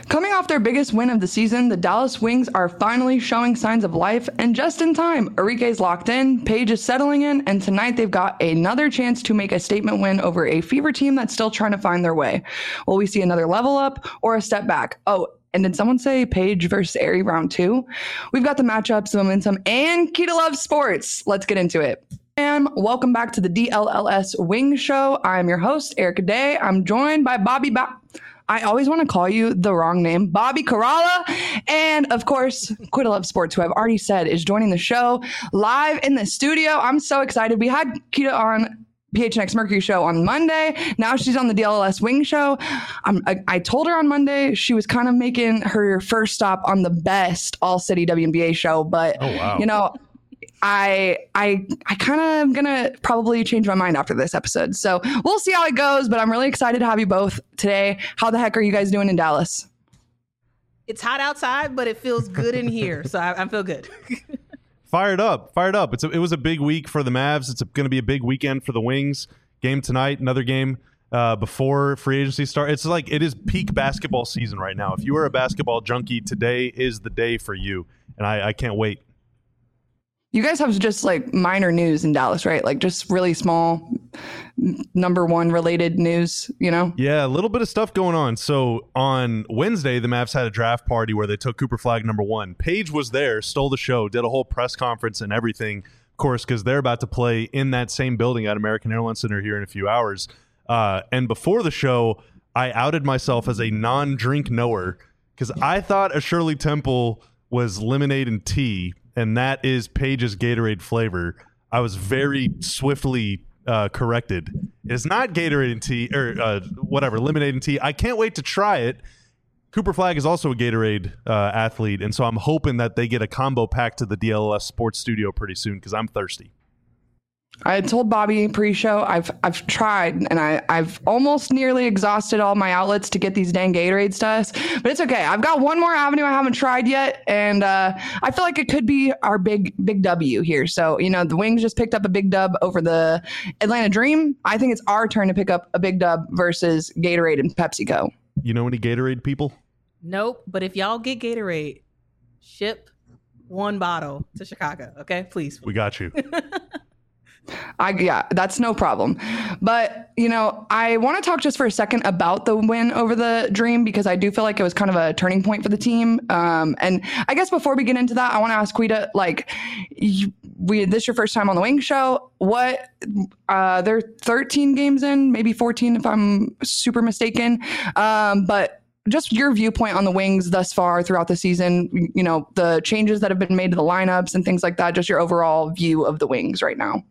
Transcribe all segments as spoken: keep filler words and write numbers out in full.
Coming off their biggest win of the season, the Dallas Wings are finally showing signs of life, and just in time. Arike's locked in, Paige is settling in, and tonight they've got another chance to make a statement win over a Fever team that's still trying to find their way. Will we see another level up or a step back? Oh, and did someone say Paige versus Ari round two? We've got the matchups, the momentum, and key to love sports. Let's get into it. And welcome back to the D L L S Wing Show. I'm your host, Erica Day. I'm joined by Bobby ba- I always want to call you the wrong name, Bobby Karalla. And of course, Quita Love Sports, who I've already said is joining the show live in the studio. I'm so excited. We had Kita on P H N X Mercury show on Monday. Now she's on the D L L S Wing Show. I'm, I, I told her on Monday she was kind of making her first stop on the best All City W N B A show. But, oh, wow. you know, I I I kind of am gonna probably change my mind after this episode. So we'll see how it goes, but I'm really excited to have you both today. How the heck are you guys doing in Dallas? It's hot outside, but it feels good in here, so I, I feel good. Fired up, fired up. It's a, it was a big week for the Mavs. It's going to be a big weekend for the Wings. Game tonight, another game uh, before free agency start. It's like it is peak basketball season right now. If you are a basketball junkie, today is the day for you, and I, I can't wait. You guys have just like minor news in Dallas, right? Like just really small number one related news, you know? Yeah, a little bit of stuff going on. So on Wednesday, the Mavs had a draft party where they took Cooper Flag number one. Paige was there, stole the show, did a whole press conference and everything, of course, because they're about to play in that same building at American Airlines Center here in a few hours. Uh, and before the show, I outed myself as a non-drink knower because I thought a Shirley Temple was lemonade and tea, and that is Paige's Gatorade flavor. I was very swiftly uh, corrected. It's not Gatorade and tea, or uh, whatever, lemonade and tea. I can't wait to try it. Cooper Flag is also a Gatorade uh, athlete, and so I'm hoping that they get a combo pack to the D L L S Sports Studio pretty soon because I'm thirsty. I had told Bobby pre-show I've I've tried and I I've almost nearly exhausted all my outlets to get these dang Gatorade stuffs, but it's okay. I've got one more avenue I haven't tried yet, and uh, I feel like it could be our big big W here. So you know the Wings just picked up a big dub over the Atlanta Dream. I think it's our turn to pick up a big dub versus Gatorade and PepsiCo. You know any Gatorade people? Nope. But if y'all get Gatorade, ship one bottle to Chicago, okay? Please. We got you. I, yeah, that's no problem. But, you know, I want to talk just for a second about the win over the Dream because I do feel like it was kind of a turning point for the team. Um, and I guess before we get into that, I want to ask Quita, like, you, we this your first time on the Wing Show. What, uh, they're thirteen games in, maybe fourteen if I'm super mistaken. Um, but just your viewpoint on the Wings thus far throughout the season, you know, the changes that have been made to the lineups and things like that, just your overall view of the Wings right now.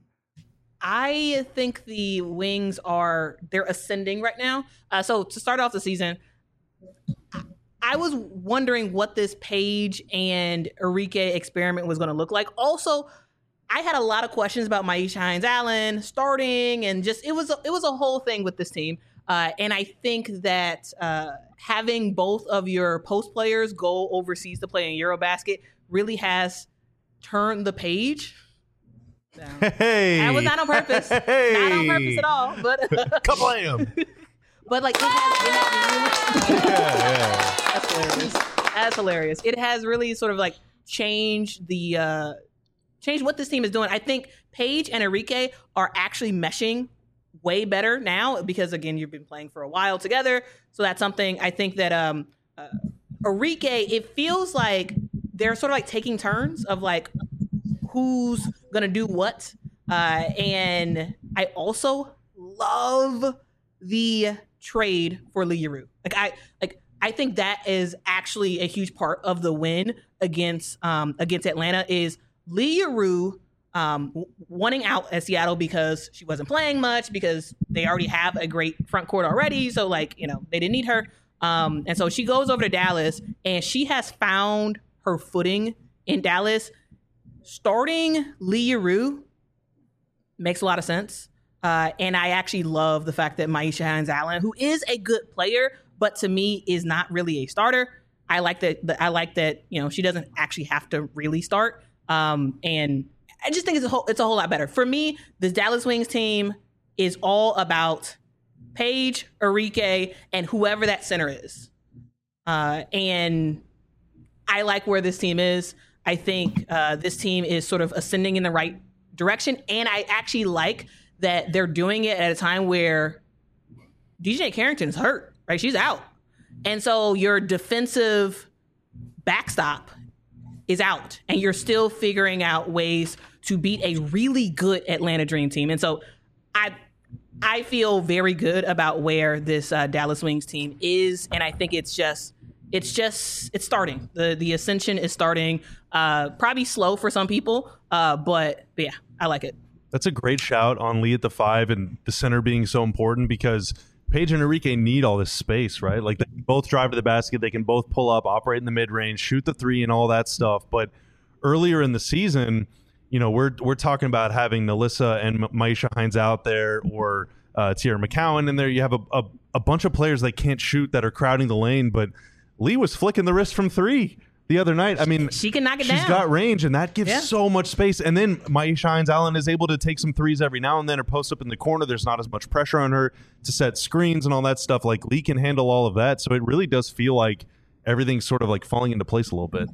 I think the Wings are, they're ascending right now. Uh, so to start off the season, I was wondering what this Paige and Arike experiment was going to look like. Also, I had a lot of questions about Myisha Hines-Allen starting, and just, it was, a, it was a whole thing with this team. Uh, and I think that uh, having both of your post players go overseas to play in Eurobasket really has turned the page. No. Hey, that was not on purpose. Hey. Not on purpose at all. But kablam! But like, it has, it has really, yeah, yeah. That's hilarious. That's hilarious. It has really sort of like changed the uh, changed what this team is doing. I think Paige and Arike are actually meshing way better now because again, you've been playing for a while together. So that's something I think that um, uh, Arike. It feels like they're sort of like taking turns of like who's gonna do what, uh, and I also love the trade for Leroux. Like I like I think that is actually a huge part of the win against um, against Atlanta is Leroux um, wanting out at Seattle because she wasn't playing much because they already have a great front court already. So like you know they didn't need her, um, and so she goes over to Dallas and she has found her footing in Dallas. Starting Leroux makes a lot of sense. Uh, and I actually love the fact that Myisha Hines-Allen, who is a good player, but to me is not really a starter. I like that. that I like that, you know, she doesn't actually have to really start. Um, and I just think it's a whole, it's a whole lot better. For me, this Dallas Wings team is all about Paige, Arike, and whoever that center is. Uh, and I like where this team is. I think uh, this team is sort of ascending in the right direction. And I actually like that they're doing it at a time where D J Carrington is hurt, right? She's out. And so your defensive backstop is out, and you're still figuring out ways to beat a really good Atlanta Dream team. And so I I feel very good about where this uh, Dallas Wings team is, and I think it's just it's just it's starting. The the ascension is starting. Uh, probably slow for some people, uh, but, but yeah, I like it. That's a great shout on Lee at the five and the center being so important, because Paige and Enrique need all this space, right? Like, they can both drive to the basket, they can both pull up, operate in the mid-range, shoot the three and all that stuff. But earlier in the season, you know, we're we're talking about having Nalissa and Maisha Hines out there, or uh, Tierra McCowan in there. You have a, a, a bunch of players that can't shoot that are crowding the lane, but Lee was flicking the wrist from three the other night. I mean, she can knock it she's down. got range, and that gives Yeah. so much space. And then Maisha Hines Allen is able to take some threes every now and then, or post up in the corner. There's not as much pressure on her to set screens and all that stuff. Like, Lee can handle all of that. So it really does feel like everything's sort of like falling into place a little bit.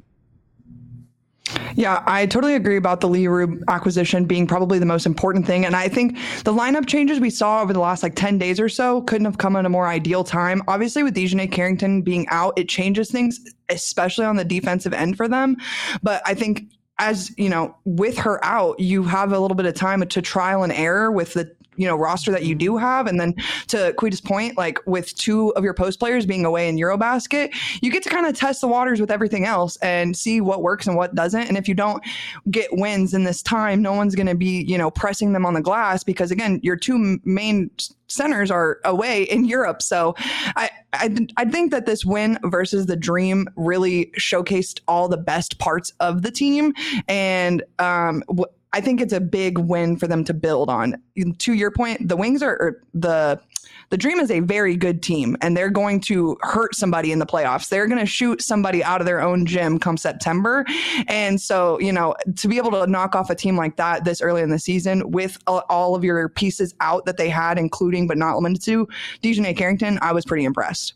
Yeah, I totally agree about the Lee Rube acquisition being probably the most important thing. And I think the lineup changes we saw over the last like ten days or so couldn't have come at a more ideal time. Obviously, with Dejanay Carrington being out, it changes things, especially on the defensive end for them. But I think, as you know, with her out, you have a little bit of time to trial and error with the you know roster that you do have. And then to Quita's point, like with two of your post players being away in Eurobasket, you get to kind of test the waters with everything else and see what works and what doesn't. And if you don't get wins in this time, no one's going to be you know pressing them on the glass, because again, your two main centers are away in Europe. So I, I I think that this win versus the Dream really showcased all the best parts of the team. And um w- I think it's a big win for them to build on. To your point, the Wings are or the the Dream is a very good team, and they're going to hurt somebody in the playoffs. They're going to shoot somebody out of their own gym come September. And so, you know, to be able to knock off a team like that this early in the season with all of your pieces out that they had, including but not limited to Dejanay Carrington, I was pretty impressed.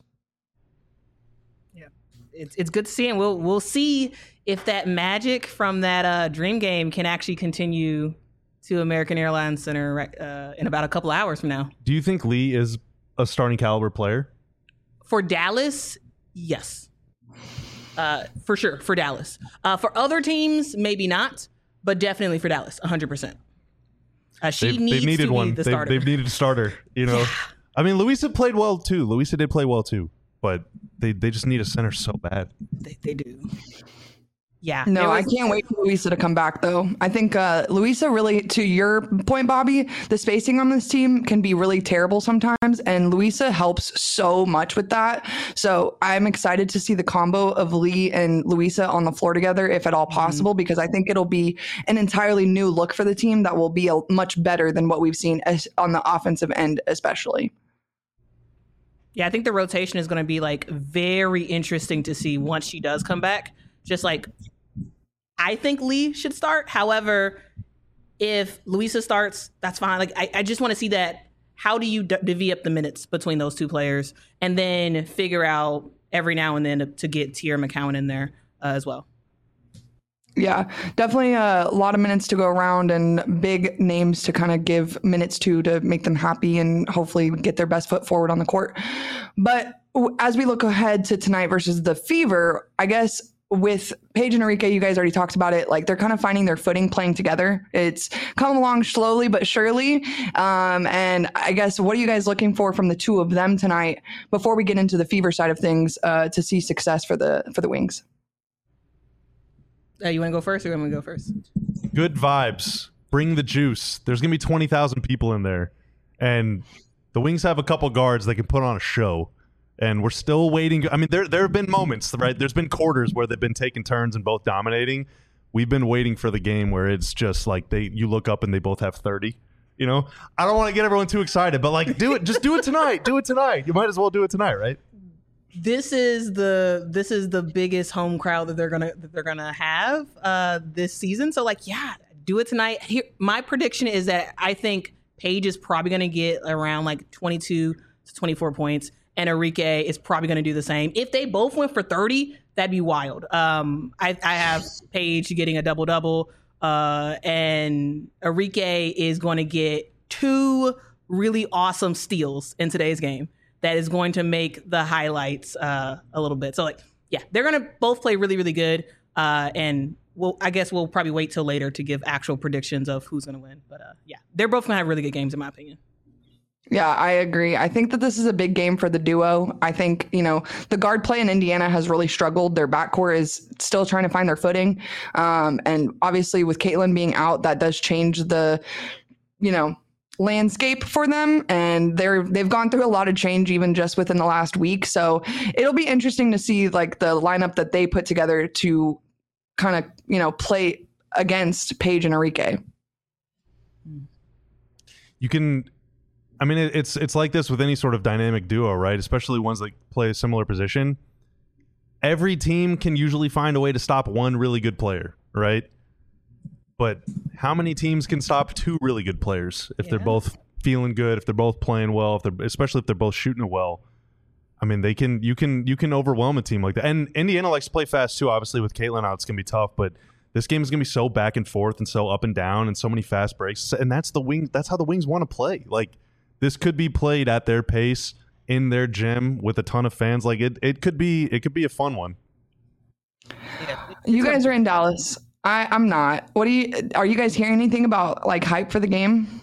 Yeah, it's it's good to see, and we'll we'll see if that magic from that uh, Dream game can actually continue to American Airlines Center uh, in about a couple hours from now. Do you think Lee is a starting caliber player? For Dallas, yes. Uh, for sure, for Dallas. Uh, for other teams, maybe not, but definitely for Dallas, one hundred percent. Uh, she they've, needs they've needed to one. be the they've, starter. they've needed a starter, you know. Yeah. I mean, Louisa played well too. Louisa did play well too, but they, they just need a center so bad. They, they do. Yeah. No, was, I can't wait for Louisa to come back, though. I think uh, Louisa really, to your point, Bobby, the spacing on this team can be really terrible sometimes, and Louisa helps so much with that. So I'm excited to see the combo of Lee and Louisa on the floor together, if at all possible, mm-hmm. because I think it'll be an entirely new look for the team that will be a, much better than what we've seen as, on the offensive end, especially. Yeah, I think the rotation is going to be like very interesting to see once she does come back. Just like, I think Lee should start. However, if Louisa starts, that's fine. Like, I, I just want to see that. How do you d- divvy up the minutes between those two players, and then figure out every now and then to, to get Tierra McCowan in there uh, as well? Yeah, definitely a lot of minutes to go around and big names to kind of give minutes to to make them happy and hopefully get their best foot forward on the court. But as we look ahead to tonight versus the Fever, I guess with Paige and Enrique, you guys already talked about it. Like, they're kind of finding their footing playing together. It's coming along slowly but surely. Um, and I guess, what are you guys looking for from the two of them tonight before we get into the Fever side of things uh, to see success for the for the Wings? Uh, you want to go first, or you want me to go first? Good vibes. Bring the juice. There's going to be twenty thousand people in there. And the Wings have a couple guards that can put on a show. And we're still waiting. I mean, there there have been moments, right? There's been quarters where they've been taking turns and both dominating. We've been waiting for the game where it's just like they you look up and they both have thirty. You know, I don't want to get everyone too excited, but like, do it. Just do it tonight. Do it tonight. You might as well do it tonight, right? This is the this is the biggest home crowd that they're gonna that they're gonna have uh, this season. So like, yeah, do it tonight. Here, my prediction is that I think Paige is probably gonna get around like twenty-two to twenty-four points. and Enrique is probably going to do the same. If they both went for thirty, that'd be wild. Um, I, I have Paige getting a double double, uh, and Enrique is going to get two really awesome steals in today's game. That is going to make the highlights uh, a little bit. So, like, yeah, they're going to both play really, really good, uh, and well, I guess we'll probably wait till later to give actual predictions of who's going to win. But uh, yeah, they're both going to have really good games, in my opinion. Yeah, I agree. I think that this is a big game for the duo. I think, you know, the guard play in Indiana has really struggled. Their backcourt is still trying to find their footing. Um, and obviously with Caitlin being out, that does change the, you know, landscape for them. And they're, they've gone through a lot of change even just within the last week. So it'll be interesting to see like the lineup that they put together to kind of, you know, play against Paige and Enrique. You can, I mean, it, it's it's like this with any sort of dynamic duo, right? Especially ones that play a similar position. Every team can usually find a way to stop one really good player, right? But how many teams can stop two really good players if yeah. they're both feeling good, if they're both playing well, if they're especially if they're both shooting it well? I mean, they can you can you can overwhelm a team like that. And Indiana likes to play fast too. Obviously, with Caitlin out, it's gonna be tough. But this game is gonna be so back and forth and so up and down and so many fast breaks. And that's the wing. That's how the Wings want to play. Like this could be played at their pace in their gym with a ton of fans. Like it, it could be it could be a fun one. You guys are in Dallas. I, I'm not. What do you? Are you guys hearing anything about like hype for the game?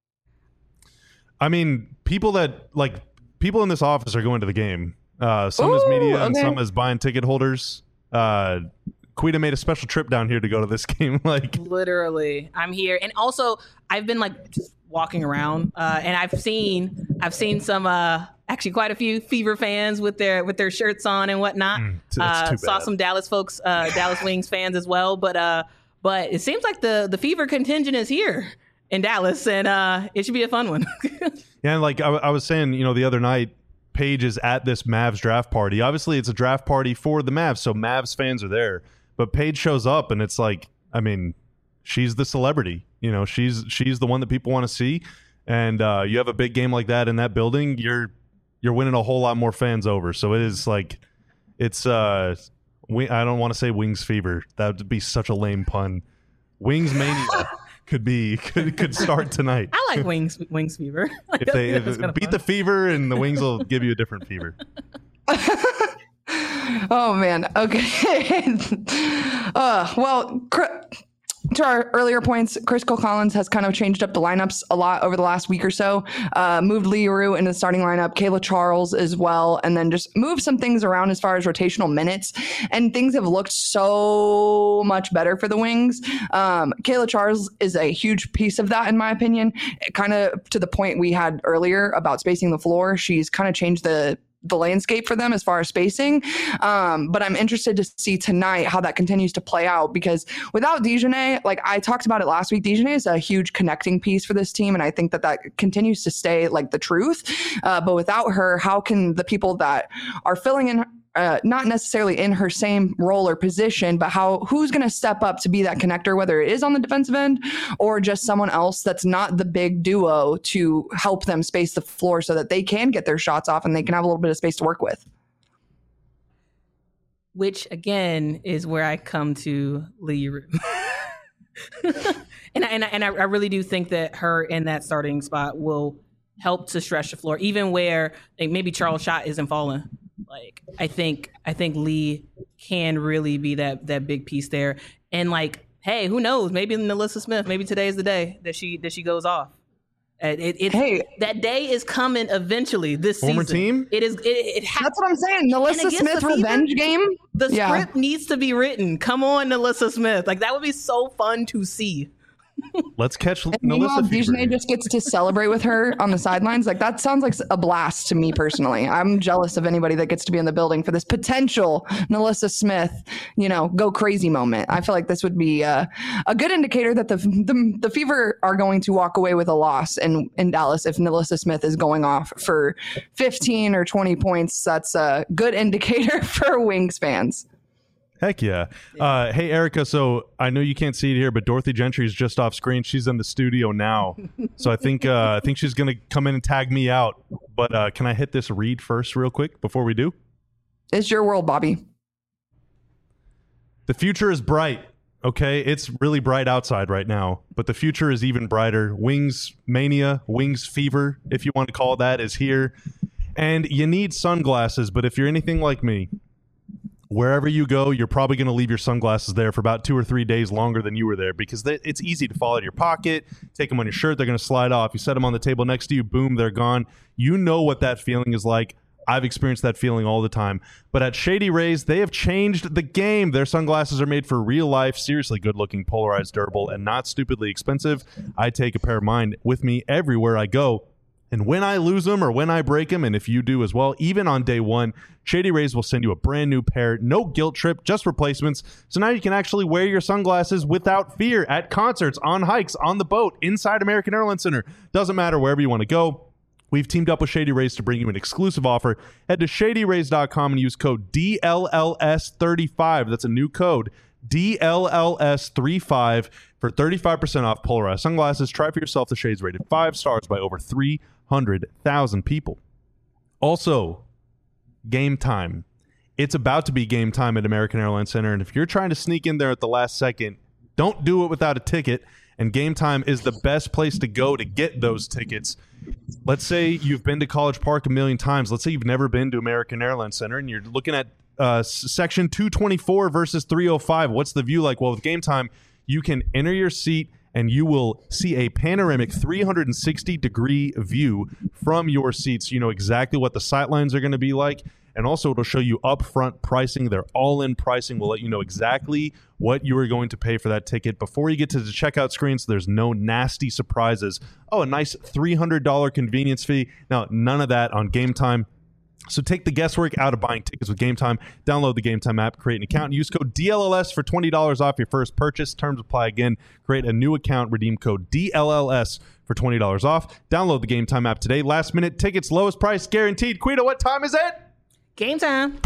I mean, people that like. People in this office are going to the game. Uh, some Ooh, as media okay. and some as buying ticket holders. Uh, Quita made a special trip down here to go to this game. Like literally, I'm here, and also I've been like just walking around, uh, and I've seen I've seen some uh, actually quite a few Fever fans with their with their shirts on and whatnot. Mm, uh, saw some Dallas folks, uh, Dallas Wings fans as well. But uh, but it seems like the the Fever contingent is here in Dallas, and uh, it should be a fun one. Yeah, and like I, I was saying, you know, the other night, Paige is at this Mavs draft party. Obviously, it's a draft party for the Mavs, so Mavs fans are there. But Paige shows up, and it's like, I mean, she's the celebrity. You know, she's she's the one that people want to see. And uh, you have a big game like that in that building, you're you're winning a whole lot more fans over. So it is like, it's uh, we, I don't want to say Wings fever. That would be such a lame pun. Wings mania. Could be could could start tonight. I like Wings Wings fever. Like, if they if beat fun. The fever, and the Wings will give you a different fever. Oh man. Okay. uh, well. Cr- To our earlier points, Chris Cole-Collins has kind of changed up the lineups a lot over the last week or so. Uh, moved Leroux into the starting lineup, Kayla Charles as well, and then just moved some things around as far as rotational minutes. And things have looked so much better for the Wings. Um, Kayla Charles is a huge piece of that, in my opinion. Kind of to the point we had earlier about spacing the floor. She's kind of changed the the landscape for them as far as spacing. Um, but I'm interested to see tonight how that continues to play out, because without Dejanay, like I talked about it last week, Dejanay is a huge connecting piece for this team. And I think that that continues to stay like the truth. Uh, but without her, how can the people that are filling in Uh, not necessarily in her same role or position, but how who's going to step up to be that connector, whether it is on the defensive end or just someone else that's not the big duo to help them space the floor so that they can get their shots off and they can have a little bit of space to work with. Which, again, is where I come to Leroux. and I, and, I, and I really do think that her in that starting spot will help to stretch the floor, even where like, maybe Charles' shot isn't falling. Like I think I think Lee can really be that that big piece there. And like, hey, who knows? Maybe NaLyssa Smith, maybe today is the day that she that she goes off. It, it, it hey, that day is coming eventually this former season. Team? It is it, it ha- That's what I'm saying. NaLyssa Smith revenge game. The yeah. script needs to be written. Come on, NaLyssa Smith. Like that would be so fun to see. Let's catch and NaLyssa Dejanay just gets to celebrate with her on the sidelines. Like that sounds like a blast to me personally. I'm jealous of anybody that gets to be in the building for this potential NaLyssa Smith, you know, go crazy moment. I feel like this would be uh, a good indicator that the, the the Fever are going to walk away with a loss in, in Dallas if NaLyssa Smith is going off for fifteen or twenty points. That's a good indicator for Wings fans. Heck yeah. Uh, hey, Erica, so I know you can't see it here, but Dorothy Gentry is just off screen. She's in the studio now. So I think uh, I think she's going to come in and tag me out. But uh, can I hit this read first real quick before we do? It's your world, Bobby. The future is bright, okay? It's really bright outside right now, but the future is even brighter. Wings Mania, Wings Fever, if you want to call it that, is here. And you need sunglasses, but if you're anything like me, wherever you go, you're probably going to leave your sunglasses there for about two or three days longer than you were there because they, it's easy to fall out of your pocket, take them on your shirt, they're going to slide off. You set them on the table next to you, boom, they're gone. You know what that feeling is like. I've experienced that feeling all the time. But at Shady Rays, they have changed the game. Their sunglasses are made for real life, seriously good-looking, polarized, durable, and not stupidly expensive. I take a pair of mine with me everywhere I go. And when I lose them or when I break them, and if you do as well, even on day one, Shady Rays will send you a brand new pair. No guilt trip, just replacements. So now you can actually wear your sunglasses without fear at concerts, on hikes, on the boat, inside American Airlines Center. Doesn't matter wherever you want to go. We've teamed up with Shady Rays to bring you an exclusive offer. Head to shady rays dot com and use code D L L S thirty-five. That's a new code, D L L S thirty-five, for thirty-five percent off polarized sunglasses. Try for yourself the shades rated five stars by over three hundred thousand people. Also, game time. It's about to be game time at American Airlines Center, and if you're trying to sneak in there at the last second, don't do it without a ticket. And Game Time is the best place to go to get those tickets. Let's say you've been to College Park a million times. Let's say you've never been to American Airlines Center, and you're looking at uh, section two twenty-four versus three oh five. What's the view like? Well, with Game Time, you can enter your seat, and you will see a panoramic three hundred sixty degree view from your seats. You know exactly what the sightlines are going to be like. And also, it'll show you upfront pricing. Their all-in pricing will let you know exactly what you are going to pay for that ticket before you get to the checkout screen, so there's no nasty surprises. Oh, a nice three hundred dollars convenience fee. Now, none of that on Game Time. So take the guesswork out of buying tickets with Game Time. Download the Game Time app, create an account, and use code D L L S for twenty dollars off your first purchase. Terms apply again. Create a new account, redeem code D L L S for twenty dollars off. Download the Game Time app today. Last minute tickets, lowest price guaranteed. Quita, what time is it? Game time.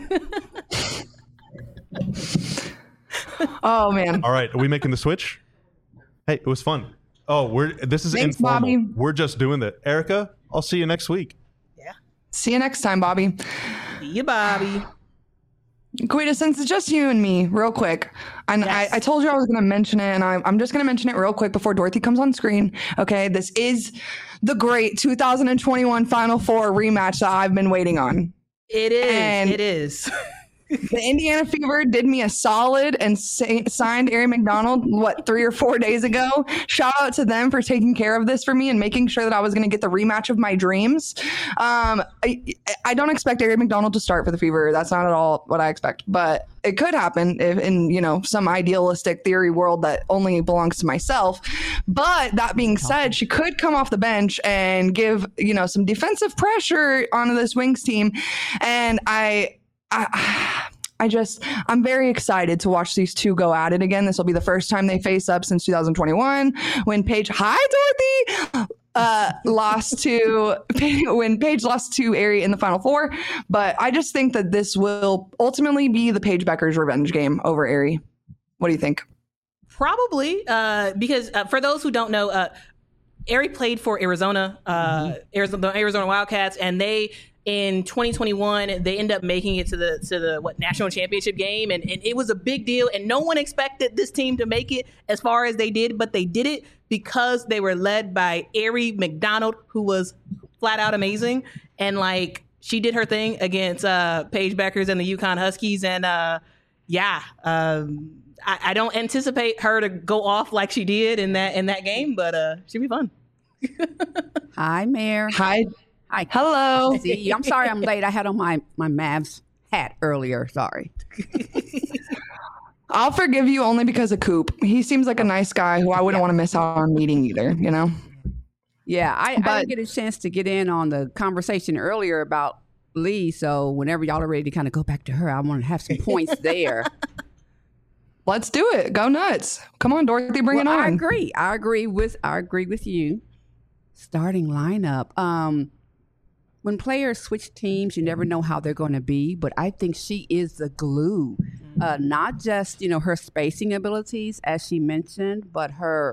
Oh, man. All right, are we making the switch? Hey, it was fun. Oh, we're this is Thanks, informal. Bobby. We're just doing that. Erica, I'll see you next week. Yeah. See you next time, Bobby. See you, Bobby. Quita, since it's just you and me, real quick, and Yes. I, I told you I was going to mention it, and I, I'm just going to mention it real quick before Dorothy comes on screen. Okay, this is the great two thousand twenty-one Final Four rematch that I've been waiting on. It is. And- it is. The Indiana Fever did me a solid and sa- signed Ari McDonald, what, three or four days ago. Shout out to them for taking care of this for me and making sure that I was going to get the rematch of my dreams. Um, I, I don't expect Ari McDonald to start for the Fever. That's not at all what I expect, but it could happen if in, you know, some idealistic theory world that only belongs to myself. But that being said, she could come off the bench and give, you know, some defensive pressure onto this Wings team. And I, I, I just, I'm very excited to watch these two go at it again. This will be the first time they face up since two thousand twenty-one when Paige, hi Dorothy, uh, lost to, when Paige lost to Ari in the Final Four. But I just think that this will ultimately be the Paige Becker's revenge game over Ari. What do you think? Probably, uh, because uh, for those who don't know, uh, Ari played for Arizona, uh, mm-hmm. Arizona, the Arizona Wildcats, and they, in twenty twenty-one, they end up making it to the to the what national championship game, and, and it was a big deal. And no one expected this team to make it as far as they did, but they did it because they were led by Ari McDonald, who was flat out amazing. And like she did her thing against uh, Paige Beckers and the UConn Huskies, and uh, yeah, um, I, I don't anticipate her to go off like she did in that in that game, but uh, she'll be fun. Hi, Mayor. Hi. Hi. Hello. See, I'm sorry I'm late. I had on my, my Mavs hat earlier. Sorry. I'll forgive you only because of Coop. He seems like a nice guy who I wouldn't want to miss out on meeting either, you know? Yeah, I, But- I didn't get a chance to get in on the conversation earlier about Lee. So whenever y'all are ready to kind of go back to her, I want to have some points there. Let's do it. Go nuts. Come on, Dorothy, bring well, it on. I agree. I agree with I agree with you. Starting lineup. Um, when players switch teams, you never know how they're going to be, but I think she is the glue Uh, not just, you know, her spacing abilities, as she mentioned, but her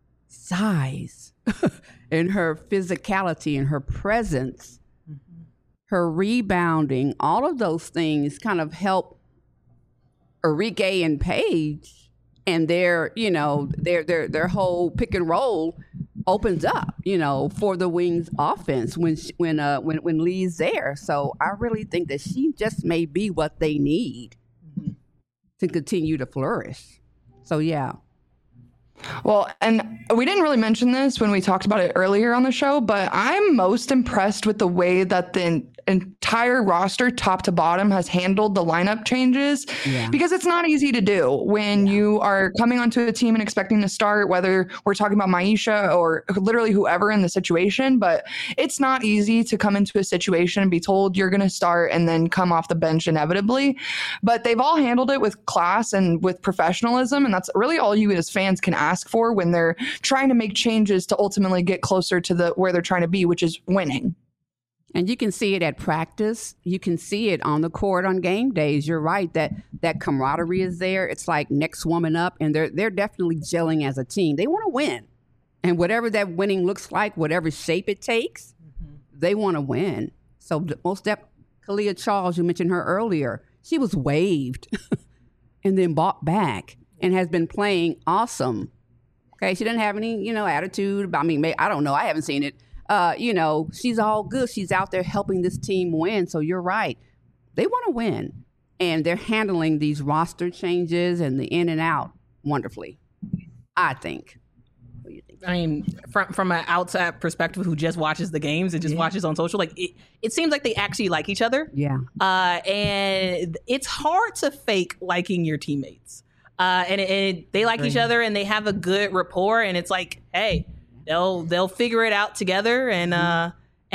size and her physicality and her presence, mm-hmm. her rebounding, all of those things kind of help Arike and Paige and their, you know, their their their whole pick and roll opens up, you know, for the Wings offense when she, when uh when when Lee's there. So I really think that she just may be what they need mm-hmm. to continue to flourish. So yeah. Well, and we didn't really mention this when we talked about it earlier on the show, but I'm most impressed with the way that the entire roster, top to bottom, has handled the lineup changes yeah. because it's not easy to do when yeah. you are coming onto a team and expecting to start, whether we're talking about Maisha or literally whoever in the situation, but it's not easy to come into a situation and be told you're going to start and then come off the bench inevitably. But they've all handled it with class and with professionalism, and that's really all you as fans can ask for when they're trying to make changes to ultimately get closer to the where they're trying to be, which is winning. And you can see it at practice. You can see it on the court on game days. You're right that that camaraderie is there. It's like next woman up, and they're they're definitely gelling as a team. They want to win, and whatever that winning looks like, whatever shape it takes, mm-hmm. they want to win. So most def- Kalia Charles, you mentioned her earlier. She was waived and then bought back and has been playing awesome. Okay, she didn't have any, you know, attitude. I mean, I don't know. I haven't seen it. Uh, you know, she's all good. She's out there helping this team win. So you're right. They want to win. And they're handling these roster changes and the in and out wonderfully, I think. What do you think? I mean, from from an outside perspective who just watches the games and just yeah. watches on social, like it, it seems like they actually like each other. Yeah. Uh, and it's hard to fake liking your teammates. Uh, and, and they like each other and they have a good rapport. And it's like, hey, they'll they'll figure it out together. And uh,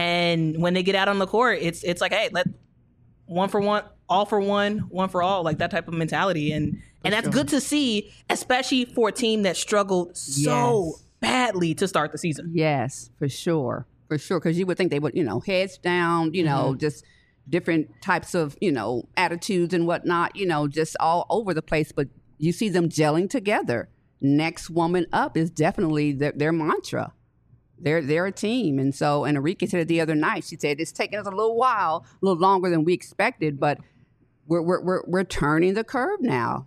and when they get out on the court, it's it's like, hey, let one for one, all for one, one for all, like that type of mentality. And and that's good to see, especially for a team that struggled so yes. badly to start the season. Yes, for sure, for sure. Because you would think they would, you know, heads down, you know, mm-hmm. just different types of, you know, attitudes and whatnot, you know, just all over the place. But you see them gelling together. Next woman up is definitely their, their mantra. They're they're a team. And so, and Arike said it the other night. She said, it's taken us a little while, a little longer than we expected, but we're we're we're, we're turning the curve now.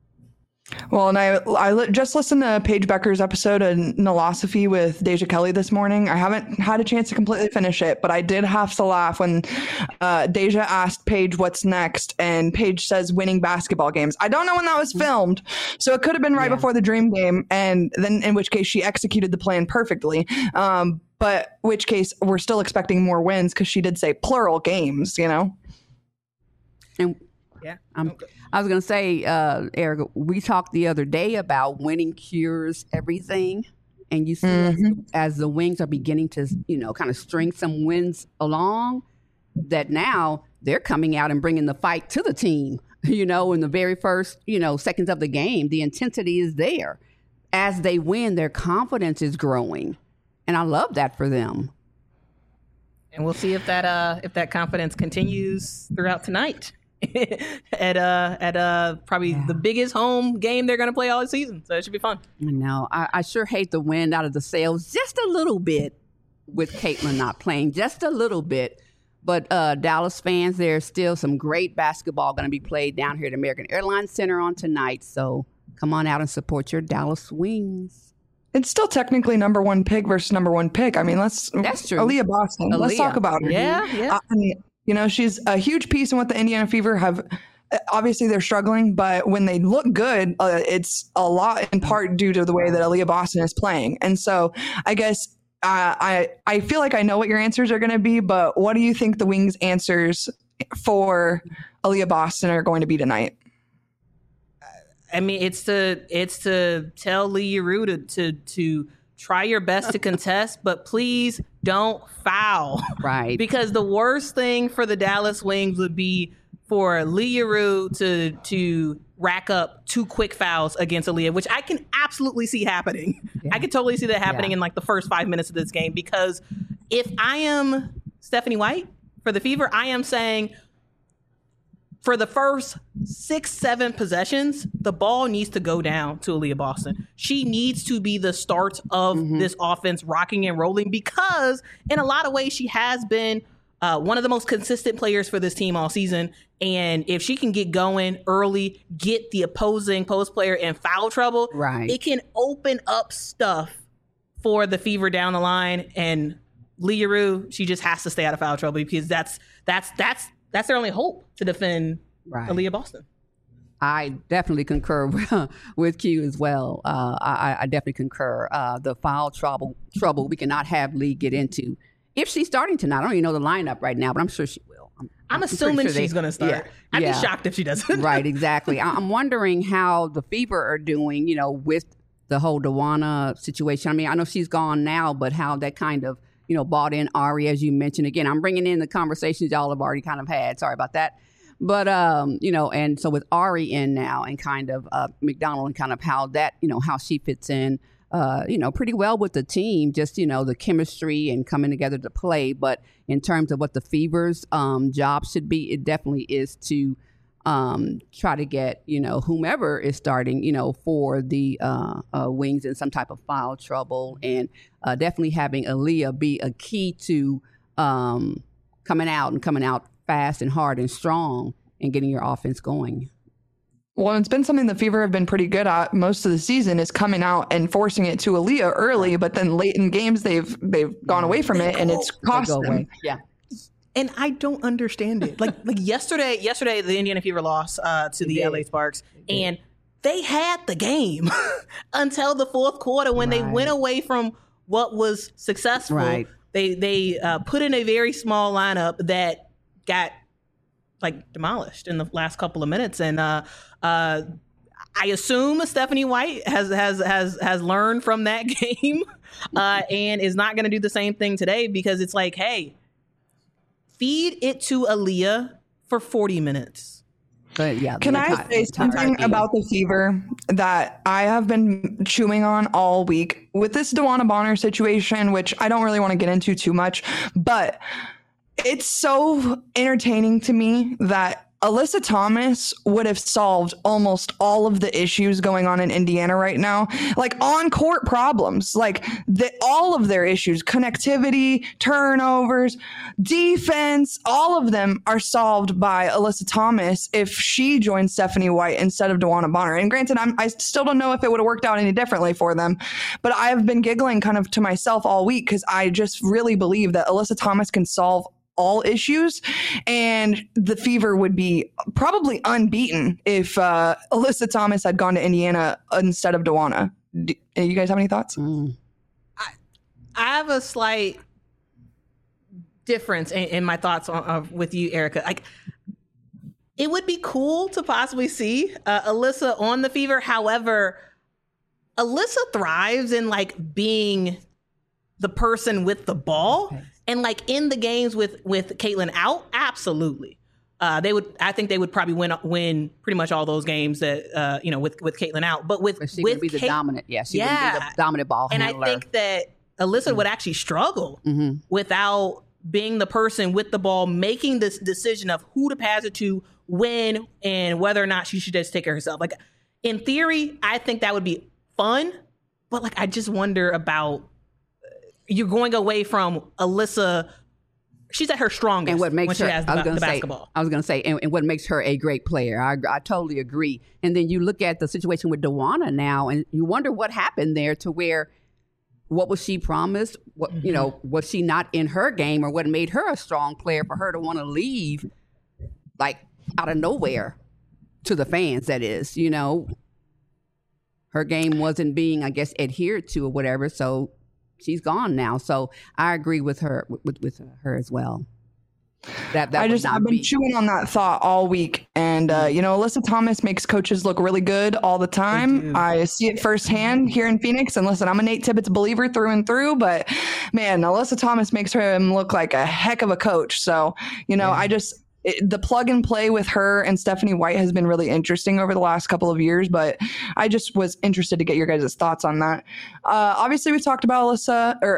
Well, and I I li- just listened to Paige Becker's episode of Nolosophy with Deja Kelly this morning. I haven't had a chance to completely finish it, but I did have to laugh when uh, Deja asked Paige what's next, and Paige says winning basketball games. I don't know when that was filmed, so it could have been right yeah. before the Dream game, and then in which case she executed the plan perfectly. Um, but which case we're still expecting more wins because she did say plural games, you know? And yeah, I'm, I was going to say, uh, Erica, we talked the other day about winning cures everything. And you see mm-hmm. as, as the Wings are beginning to, you know, kind of string some wins along, that now they're coming out and bringing the fight to the team. You know, in the very first, you know, seconds of the game, the intensity is there. As they win, their confidence is growing. And I love that for them. And we'll see if that uh, if that confidence continues throughout tonight. at uh at uh probably yeah. the biggest home game they're gonna play all season, so it should be fun. I know. I, I sure hate the wind out of the sails just a little bit with Caitlin not playing, just a little bit. But uh, Dallas fans, there's still some great basketball going to be played down here at American Airlines Center on tonight. So come on out and support your Dallas Wings. It's still technically number one pick versus number one pick. I mean, let's that's true. Aaliyah Boston. Aaliyah. Let's talk about her. Yeah, yeah. I mean, you know, she's a huge piece in what the Indiana Fever have. Obviously, they're struggling, but when they look good, uh, it's a lot in part due to the way that Aaliyah Boston is playing. And so I guess uh, I I feel like I know what your answers are going to be, but what do you think the Wings' answers for Aaliyah Boston are going to be tonight? I mean, it's to it's to tell Lee Rue to, to to try your best to contest, but please don't foul. Right. Because the worst thing for the Dallas Wings would be for Lee Rue to to rack up two quick fouls against Aaliyah, which I can absolutely see happening. Yeah. I can totally see that happening yeah. in like the first five minutes of this game, because if I am Stephanie White for the Fever, I am saying, for the first six, seven possessions, the ball needs to go down to Aaliyah Boston. She needs to be the start of mm-hmm. this offense rocking and rolling, because in a lot of ways she has been uh, one of the most consistent players for this team all season. And if she can get going early, get the opposing post player in foul trouble, right. it can open up stuff for the Fever down the line. And Leah Rue, she just has to stay out of foul trouble, because that's that's that's that's their only hope to defend right. Aaliyah Boston. I definitely concur with Q as well. Uh, I, I definitely concur. Uh, the foul trouble trouble we cannot have Lee get into. If she's starting tonight, I don't even know the lineup right now, but I'm sure she will. I'm, I'm, I'm assuming sure she's going to start. Yeah, I'd yeah. be shocked if she doesn't. Right, exactly. I'm wondering how the Fever are doing, you know, with the whole Dawana situation. I mean, I know she's gone now, but how that kind of, you know, bought in Ari, as you mentioned. Again, I'm bringing in the conversations y'all have already kind of had. Sorry about that. But, um, you know, and so with Ari in now and kind of uh, McDonald and kind of how that, you know, how she fits in, uh, you know, pretty well with the team, just, you know, the chemistry and coming together to play. But in terms of what the Fever's um, job should be, it definitely is to um, try to get, you know, whomever is starting, you know, for the uh, uh, Wings in some type of foul trouble, and uh, definitely having Aaliyah be a key to um, coming out and coming out fast and hard and strong and getting your offense going. Well, it's been something the Fever have been pretty good at most of the season, is coming out and forcing it to Aaliyah early, but then late in games they've they've gone away from it, and it's cost them. Away. Yeah. And I don't understand it. Like like yesterday, yesterday the Indiana Fever lost uh, to the L A Sparks, and they had the game until the fourth quarter when right. they went away from what was successful. Right. They they uh, put in a very small lineup that got like demolished in the last couple of minutes, and uh, uh, I assume Stephanie White has has has has learned from that game uh, and is not going to do the same thing today, because it's like, hey, feed it to Aaliyah for forty minutes. But yeah, can I say something about the Fever that I have been chewing on all week with this DeWanna Bonner situation, which I don't really want to get into too much, but it's so entertaining to me that Alyssa Thomas would have solved almost all of the issues going on in Indiana right now, like on court problems, like the, all of their issues, connectivity, turnovers, defense, all of them are solved by Alyssa Thomas if she joins Stephanie White instead of DeWanna Bonner. And granted, I'm, I still don't know if it would have worked out any differently for them, but I have been giggling kind of to myself all week because I just really believe that Alyssa Thomas can solve all issues, and the Fever would be probably unbeaten if uh, Alyssa Thomas had gone to Indiana instead of DeWanna. Do you guys have any thoughts? Mm. I, I have a slight difference in, in my thoughts on, uh, with you, Erica. Like, it would be cool to possibly see uh, Alyssa on the Fever. However, Alyssa thrives in like being the person with the ball. Okay. And like in the games with with Caitlin out, absolutely, uh, they would. I think they would probably win win pretty much all those games that uh, you know with with Caitlin out. But with but she with would be the Kate, dominant, yeah, she yeah. would be the dominant ball and handler. I think that Alyssa mm-hmm. would actually struggle mm-hmm. without being the person with the ball, making this decision of who to pass it to, when, and whether or not she should just take it herself. Like in theory, I think that would be fun, but like I just wonder about. You're going away from Alyssa. She's at her strongest and what makes when her, she has the, I was gonna the say, basketball. I was going to say, and, and what makes her a great player. I, I totally agree. And then you look at the situation with DeWanna now, and you wonder what happened there to where, what was she promised? What mm-hmm. you know, was she not in her game, or what made her a strong player for her to want to leave, like out of nowhere, to the fans? That is, you know, her game wasn't being, I guess, adhered to or whatever. So. She's gone now, so I agree with her with, with her as well. That, that I just I've been be. chewing on that thought all week, and uh, you know, Alyssa Thomas makes coaches look really good all the time. I see it firsthand here in Phoenix. And listen, I'm a Nate Tibbetts believer through and through, but man, Alyssa Thomas makes him look like a heck of a coach. So you know, yeah. I just. It, the plug and play with her and Stephanie White has been really interesting over the last couple of years, but I just was interested to get your guys' thoughts on that. Uh, obviously, we've talked about Alyssa, or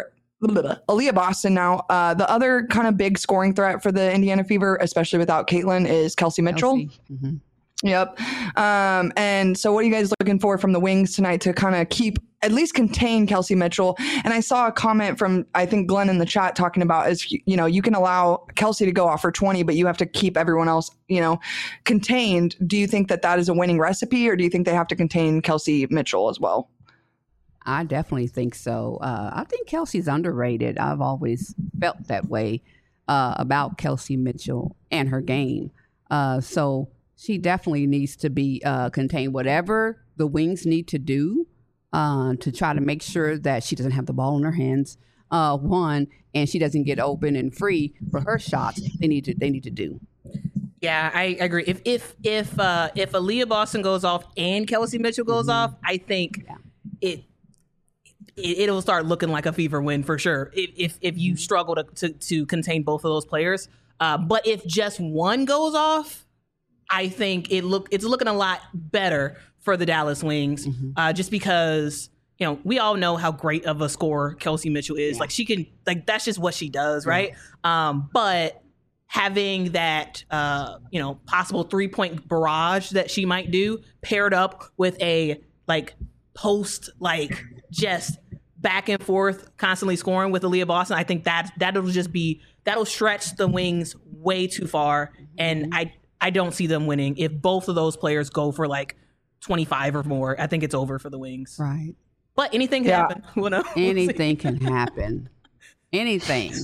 Aaliyah Boston now. Uh, the other kind of big scoring threat for the Indiana Fever, especially without Caitlin, is Kelsey Mitchell. Kelsey. Mm-hmm. Yep. Um, and so what are you guys looking for from the Wings tonight to kind of keep, at least contain Kelsey Mitchell? And I saw a comment from, I think, Glenn in the chat talking about is, you know, you can allow Kelsey to go off for twenty, but you have to keep everyone else, you know, contained. Do you think that that is a winning recipe, or do you think they have to contain Kelsey Mitchell as well? I definitely think so. Uh, I think Kelsey's underrated. I've always felt that way uh, about Kelsey Mitchell and her game. Uh, so she definitely needs to be uh, contained. Whatever the Wings need to do uh, to try to make sure that she doesn't have the ball in her hands, uh, one, and she doesn't get open and free for her shots. They need to. They need to do. Yeah, I agree. If if if uh, if Aaliyah Boston goes off and Kelsey Mitchell goes mm-hmm. off, I think yeah. it. It, it'll start looking like a Fever win for sure if if, if you struggle to, to to contain both of those players. Uh, but if just one goes off, I think it look it's looking a lot better for the Dallas Wings. Mm-hmm. Uh, just because you know we all know how great of a scorer Kelsey Mitchell is. Yeah. Like she can like that's just what she does, right? Yeah. Um, but having that uh, you know possible three point barrage that she might do paired up with a like post like just back and forth, constantly scoring with Aaliyah Boston, I think that that'll just be that'll stretch the Wings way too far, and I I don't see them winning if both of those players go for like twenty-five or more. I think it's over for the Wings. Right. But anything can yeah. happen. We'll know. We'll anything can happen. Anything.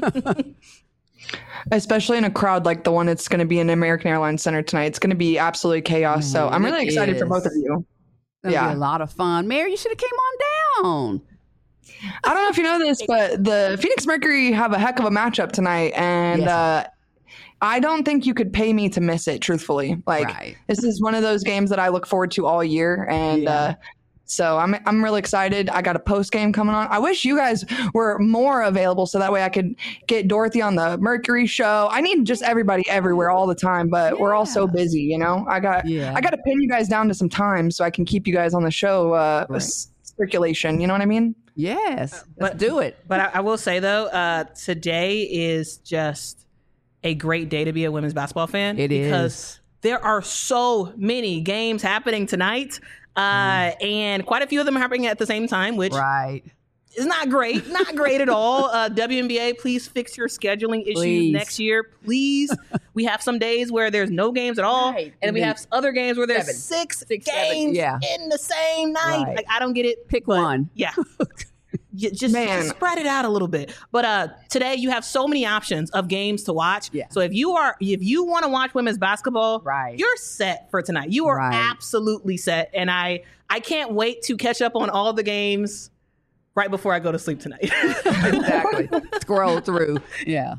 Especially in a crowd like the one that's going to be in American Airlines Center tonight. It's going to be absolutely chaos. So I'm really excited for both of you. It'll yeah, be a lot of fun. Mary, you should have came on down. I don't know if you know this, but the Phoenix Mercury have a heck of a matchup tonight, and yes. uh, I don't think you could pay me to miss it. Truthfully, like right. this is one of those games that I look forward to all year, and yeah. uh, so I'm I'm really excited. I got a post game coming on. I wish you guys were more available so that way I could get Dorothy on the Mercury show. I need just everybody everywhere all the time, but yeah. we're all so busy, you know. I got yeah. I got to pin you guys down to some time so I can keep you guys on the show uh, right. c- circulation. You know what I mean? Yes, uh, let's but, do it. But I, I will say though, uh, today is just a great day to be a women's basketball fan. It because is. There are so many games happening tonight. Uh, mm. And quite a few of them are happening at the same time, which right. is not great. Not great at all. Uh, W N B A, please fix your scheduling issues please. next year. Please. We have some days where there's no games at all. Right. And, and we have other games where there's seven. six, six games yeah. in the same night. Right. Like, I don't get it. Pick but, one. Yeah. You just, Man. just spread it out a little bit. But uh, today you have so many options of games to watch. Yeah. So if you are if you want to watch women's basketball, right. you're set for tonight. You are right. absolutely set. And I I can't wait to catch up on all the games right before I go to sleep tonight. Exactly. Scroll through. Yeah.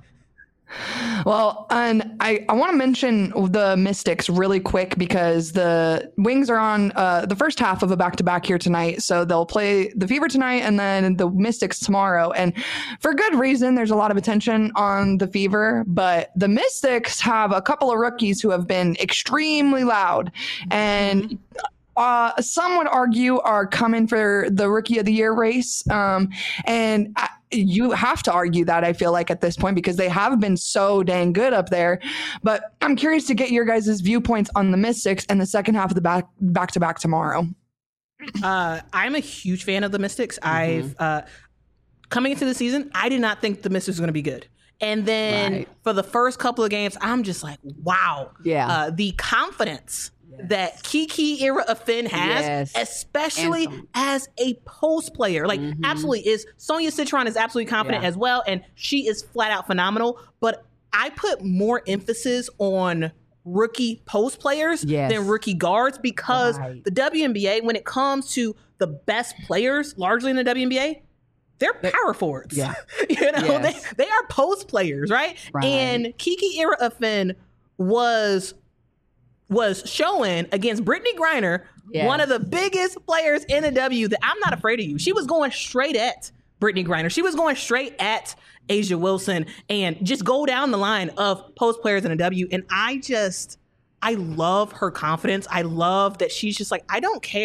Well, and I, I want to mention the Mystics really quick because the Wings are on uh, the first half of a back-to-back here tonight. So they'll play the Fever tonight and then the Mystics tomorrow. And for good reason, there's a lot of attention on the Fever. But the Mystics have a couple of rookies who have been extremely loud. And uh, some would argue are coming for the Rookie of the Year race. Um, and I, you have to argue that, I feel like, at this point, because they have been so dang good up there. But I'm curious to get your guys' viewpoints on the Mystics and the second half of the back back to back tomorrow. Uh, I'm a huge fan of the Mystics. Mm-hmm. I've uh, coming into the season, I did not think the Mystics were going to be good. And then right. for the first couple of games, I'm just like, wow. Yeah. Uh, the confidence that Kiki Ira-Affin has, yes. especially as a post player. Like, mm-hmm. absolutely is. Sonia Citron is absolutely confident yeah. as well, and she is flat out phenomenal. But I put more emphasis on rookie post players yes. than rookie guards because right. the W N B A, when it comes to the best players, largely in the W N B A, they're power forwards. Yeah. you know, yes. they, they are post players, right? right. And Kiki Ira-Affin was was showing against Brittany Griner, yes. one of the biggest players in the W, that I'm not afraid of you. She was going straight at Brittany Griner. She was going straight at A'ja Wilson and just go down the line of post players in the W. And I just, I love her confidence. I love that she's just like, I don't care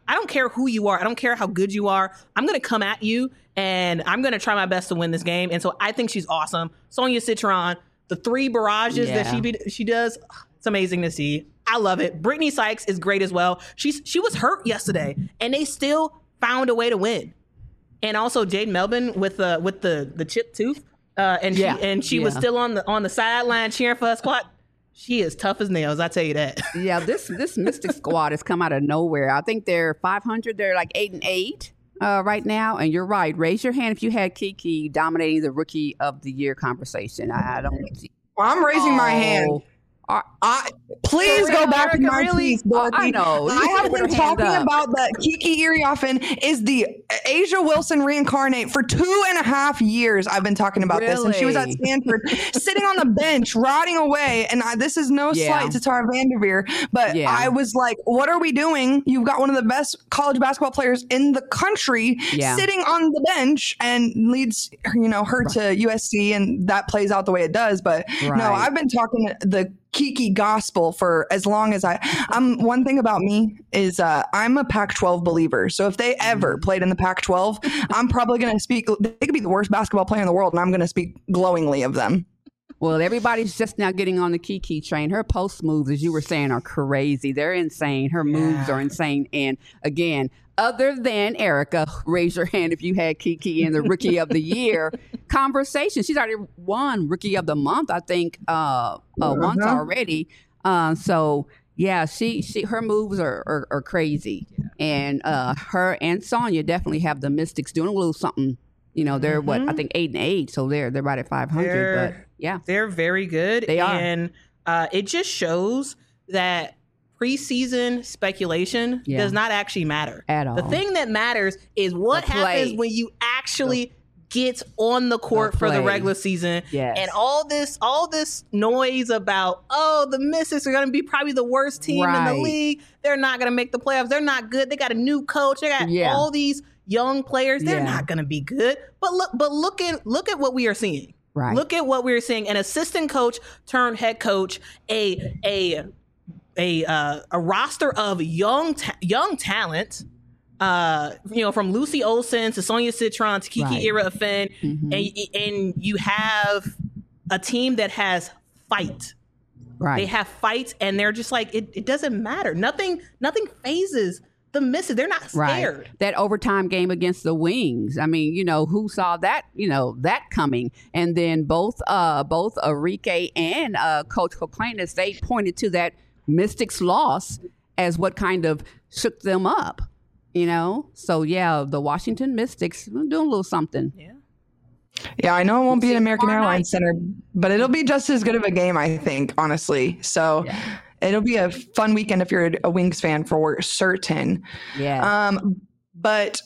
I don't care who you are. I don't care how good you are. I'm going to come at you, and I'm going to try my best to win this game. And so I think she's awesome. Sonia Citron, the three barrages Yeah. that she be, she does, it's amazing to see. I love it. Brittany Sykes is great as well. She's she was hurt yesterday, and they still found a way to win. And also Jade Melvin with the with the the chipped tooth, uh, and Yeah. she and she was Yeah. still on the on the sideline cheering for her squad. She is tough as nails, I tell you that. Yeah, this this Mystic squad has come out of nowhere. I think they're five hundred. They're like eight and eight uh, right now. And you're right. Raise your hand if you had Kiki dominating the Rookie of the Year conversation. I, I don't see. I'm raising my hand. Oh, are- I, please For go real, back to Erica, my really? piece, Dorothy. Oh, I know. You I should have put been her hand talking up. about that Kiki Iriafen is the Asia Wilson reincarnate for two and a half years. I've been talking about this, and she was at Really? Stanford, sitting on the bench, rotting away. And I, this is no Yeah. slight to Tara Vanderveer, but Yeah. I was like, "What are we doing? You've got one of the best college basketball players in the country Yeah. sitting on the bench, and leads you know her to U S C, and that plays out the way it does." But no, Right. I've been talking the Kiki gospel for as long as I um one thing about me is uh I'm a Pac twelve believer. So if they ever played in the Pac twelve, I'm probably going to speak they could be the worst basketball player in the world, and I'm going to speak glowingly of them. Well, everybody's just now getting on the Kiki train. Her post moves, as you were saying, are crazy. They're insane. Her moves are insane. And again, other than Erica, raise your hand if you had Kiki in the Rookie of the Year conversation. She's already won Rookie of the Month, I think, uh, uh, once Uh-huh. already. Uh, so yeah, she she her moves are are, are crazy, and uh, her and Sonya definitely have the Mystics doing a little something. You know, they're what I think eight and eight, so they're they're right at five hundred. But They're- yeah, They're very good. They are. And uh, it just shows that preseason speculation Yeah. does not actually matter. At all. The thing that matters is what The play. happens when you actually get on the court The for the play. regular season. Yes. And all this all this noise about, oh, the Mystics are going to be probably the worst team in Right. the league. They're not going to make the playoffs. They're not good. They got a new coach. They got Yeah. all these young players. They're Yeah. not going to be good. But look but look at look at what we are seeing. Right. Look at what we're seeing: an assistant coach turned head coach, a a a uh, a roster of young ta- young talent. Uh, you know, from Lucy Olsen to Sonia Citron to Kiki Right. Iriafen, Mhm. and and you have a team that has fight. right. They have fight, and they're just like it. It doesn't matter. Nothing. Nothing phases the Misses. They're not scared. Right. That overtime game against the Wings. I mean, you know, who saw that, you know, that coming? And then both uh both Enrique and uh Coach Coquenes, they pointed to that Mystics loss as what kind of shook them up, you know? So yeah, the Washington Mystics doing a little something. Yeah. Yeah, I know it won't be at American tomorrow Airlines Center, but it'll be just as good of a game, I think, honestly. So it'll be a fun weekend if you're a Wings fan for certain. Yeah. Um, but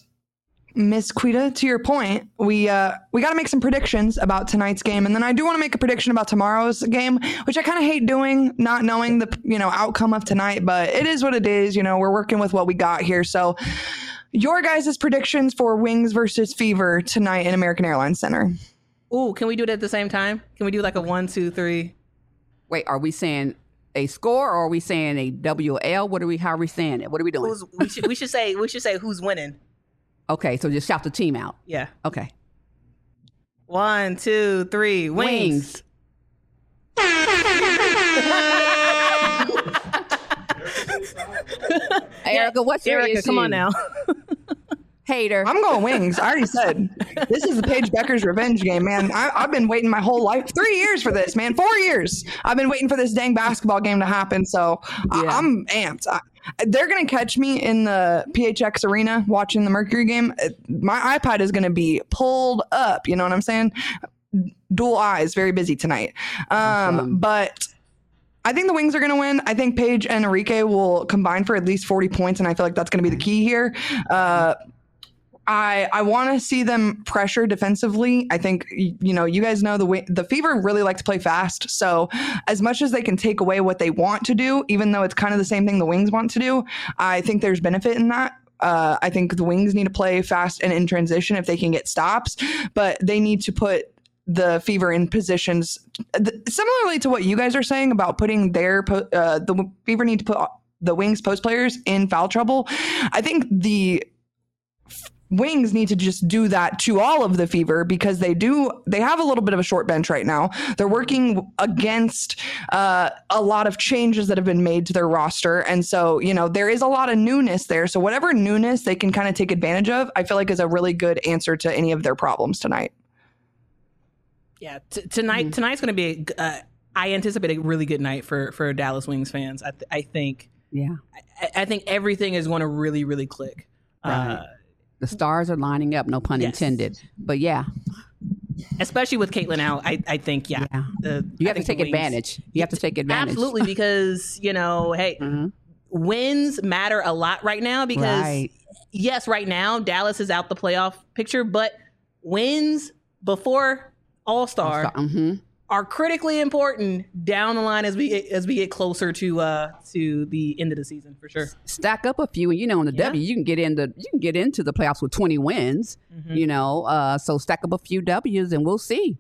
Miss Quita, to your point, we uh, we got to make some predictions about tonight's game, and then I do want to make a prediction about tomorrow's game, which I kind of hate doing, not knowing the you know outcome of tonight. But it is what it is. You know, we're working with what we got here. So, your guys' predictions for Wings versus Fever tonight in American Airlines Center. Ooh, can we do it at the same time? Can we do like a one, two, three? Wait, are we saying a score or are we saying a W L? What are we how are we saying it? What are we doing? Who's, we should we should say we should say who's winning. Okay, so just shout the team out. Yeah. Okay. One, two, three. Wings. Wings. Erica, what's your Erica, issue? come on now. Hater. I'm going Wings. I already said this is the Paige Becker's revenge game, man. I, I've been waiting my whole life, three years for this, man. Four years. I've been waiting for this dang basketball game to happen. So I, Yeah. I'm amped. I, they're gonna catch me in the P H X arena watching the Mercury game. My iPad is gonna be pulled up. You know what I'm saying? Dual eyes, very busy tonight. Um, Awesome. but. I think the Wings are going to win. I think Paige and Enrique will combine for at least forty points, and I feel like that's going to be the key here. Uh, I I want to see them pressure defensively. I think y- you know you guys know the way, the Fever really like to play fast. So as much as they can take away what they want to do, even though it's kind of the same thing the Wings want to do, I think there's benefit in that. Uh, I think the Wings need to play fast and in transition if they can get stops, but they need to put the Fever in positions th- similarly to what you guys are saying about putting their po- uh, the Fever need to put the Wings post players in foul trouble. I think the Wings need to just do that to all of the Fever because they do, they have a little bit of a short bench right now. They're working against uh, a lot of changes that have been made to their roster. And so, you know, there is a lot of newness there. So whatever newness they can kind of take advantage of, I feel like is a really good answer to any of their problems tonight. Yeah, t- tonight mm-hmm. tonight's going to be, a, uh, I anticipate a really good night for, for Dallas Wings fans. I, th- I think, yeah, I, I think everything is going to really, really click. Right. Uh, The stars are lining up, no pun yes. intended. But yeah. Especially with Caitlin out, I, I think, yeah. yeah. The, you I have to take advantage. You have to take advantage. Absolutely, because, you know, hey, mm-hmm. wins matter a lot right now because, right. yes, right now, Dallas is out the playoff picture, but wins before All-Star All-Star. Mm-hmm. are critically important down the line as we as we get closer to uh to the end of the season for sure. Stack up a few, and you know, in the yeah. W, you can get into you can get into the playoffs with twenty wins. Mm-hmm. You know, uh, so stack up a few W's, and we'll see.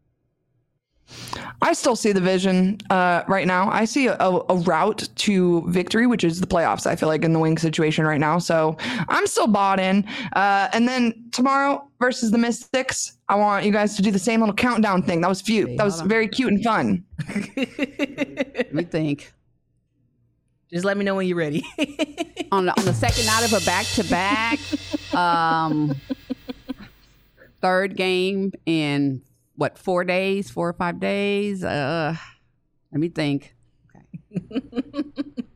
I still see the vision uh, right now. I see a, a route to victory, which is the playoffs, I feel like, in the Wings situation right now. So I'm still bought in. Uh, and then tomorrow versus the Mystics, I want you guys to do the same little countdown thing. That was cute. Hey, that was very cute and fun. Let me think. Just let me know when you're ready. on, the, on the second night of a back-to-back, um, third game in what, four days, four or five days? Uh, let me think. Okay.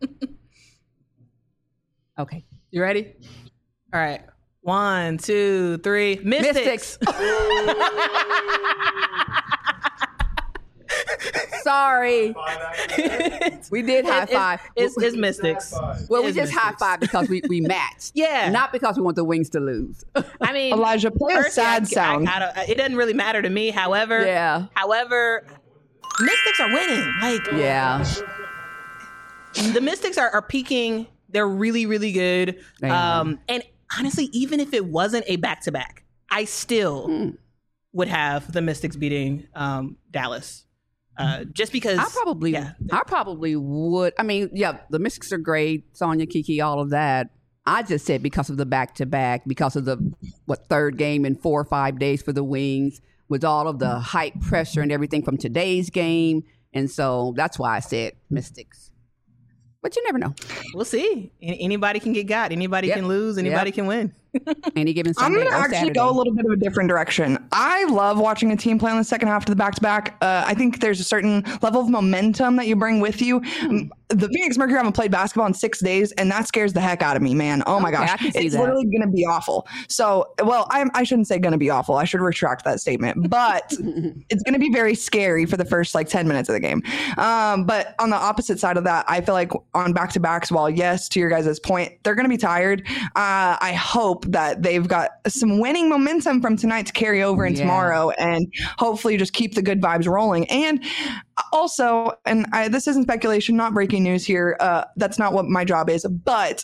Okay. You ready? All right. One, two, three. Mystics. Mystics. Sorry. We did high five. It's, it's, it's Mystics. Well, we it's just Mystics. high five because we, we matched. Yeah. Not because we want the Wings to lose. I mean, Elijah, play a sad I, sound. I, I don't, it doesn't really matter to me. However, yeah. However, Mystics are winning. Like, yeah. The Mystics are, are peaking. They're really, really good. Um, and honestly, even if it wasn't a back-to-back, I still mm. would have the Mystics beating um, Dallas. Uh, just because I probably, yeah. I probably would. I mean, yeah, the Mystics are great. Sonia, Kiki, all of that. I just said because of the back-to-back, because of the, what, third game in four or five days for the Wings, with all of the hype pressure and everything from today's game. And so that's why I said Mystics. But you never know. We'll see. Anybody can get got. Anybody yep. can lose. Anybody yep. can win. Any given Sunday I'm going to or actually Saturday. go a little bit of a different direction. I love watching a team play in the second half of the back-to-back. Uh, I think there's a certain level of momentum that you bring with you. Hmm. The Phoenix Mercury haven't played basketball in six days, and that scares the heck out of me, man. Oh, my okay, gosh. I can see it's that. literally going to be awful. So, well, I, I shouldn't say going to be awful. I should retract that statement. But it's going to be very scary for the first, like, ten minutes of the game. Um, but on the opposite side of that, I feel like on back-to-backs, while, yes, to your guys' point, they're going to be tired. Uh, I hope that they've got some winning momentum from tonight to carry over in yeah. tomorrow and hopefully just keep the good vibes rolling. And also, and I, this isn't speculation, not breaking news here. Uh, that's not what my job is, but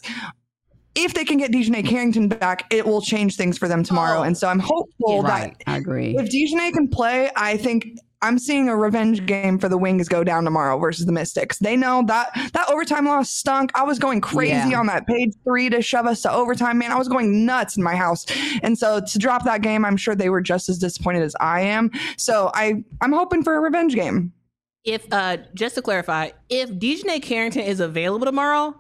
if they can get Dejanay Carrington back, it will change things for them tomorrow. Oh. And so I'm hopeful yeah, right. that I agree. if Dejanay can play, I think I'm seeing a revenge game for the Wings go down tomorrow versus the Mystics. They know that that overtime loss stunk. I was going crazy yeah. on that page three to shove us to overtime, man. I was going nuts in my house. And so to drop that game, I'm sure they were just as disappointed as I am. So I, I'm hoping for a revenge game. If uh, just to clarify, if Dejanay Carrington is available tomorrow,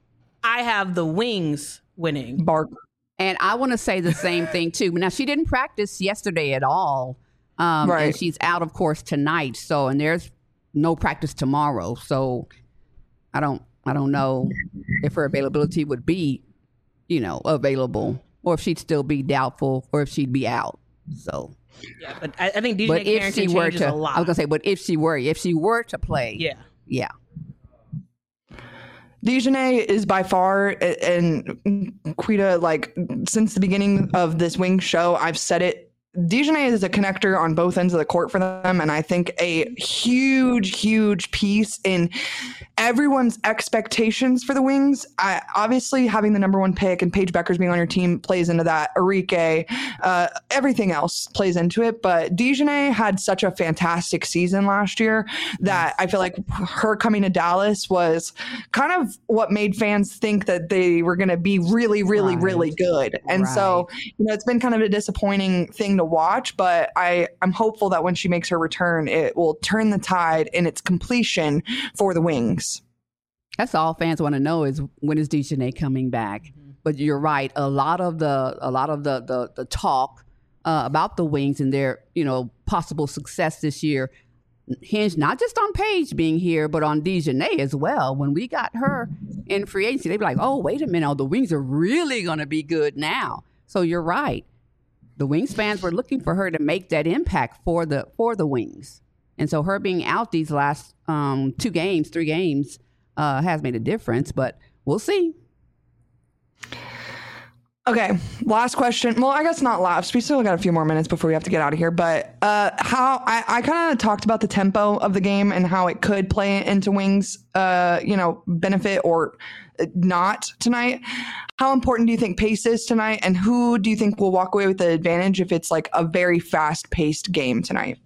I have the Wings winning. Bark. And I want to say the same thing too. Now, she didn't practice yesterday at all. Um, right. And she's out, of course, tonight. So, and there's no practice tomorrow. So I don't, I don't know if her availability would be, you know, available, or if she'd still be doubtful, or if she'd be out. So. Yeah, but I, I think Dejanay But if Carrington she were changes to, a lot. I was gonna say, but if she were, if she were to play, yeah, yeah. Dejanay is by far, and Quita, like since the beginning of this Wing show, I've said it. Dejanay is a connector on both ends of the court for them, and I think a huge, huge piece in everyone's expectations for the Wings. I, obviously, having the number one pick and Paige Beckers being on your team plays into that. Arike, uh, everything else plays into it. But DeJounte had such a fantastic season last year that I feel like her coming to Dallas was kind of what made fans think that they were going to be really, really, right. really good. And right. so, you know, it's been kind of a disappointing thing to watch. But I, I'm hopeful that when she makes her return, it will turn the tide in its completion for the Wings. That's all fans want to know is when is DeJounte coming back. Mm-hmm. But you're right. A lot of the a lot of the the, the talk uh, about the Wings and their you know possible success this year hinged not just on Paige being here, but on DeJounte as well. When we got her in free agency, they'd be like, "Oh, wait a minute, oh, the Wings are really going to be good now." So you're right. The Wings fans were looking for her to make that impact for the for the Wings, and so her being out these last um, two games, three games. Uh, has made a difference, but we'll see. Okay, last question. Well, I guess not last. We still got a few more minutes before we have to get out of here. But uh, how I, I kind of talked about the tempo of the game and how it could play into Wings, uh, you know, benefit or not tonight. How important do you think pace is tonight, and who do you think will walk away with the advantage if it's like a very fast-paced game tonight?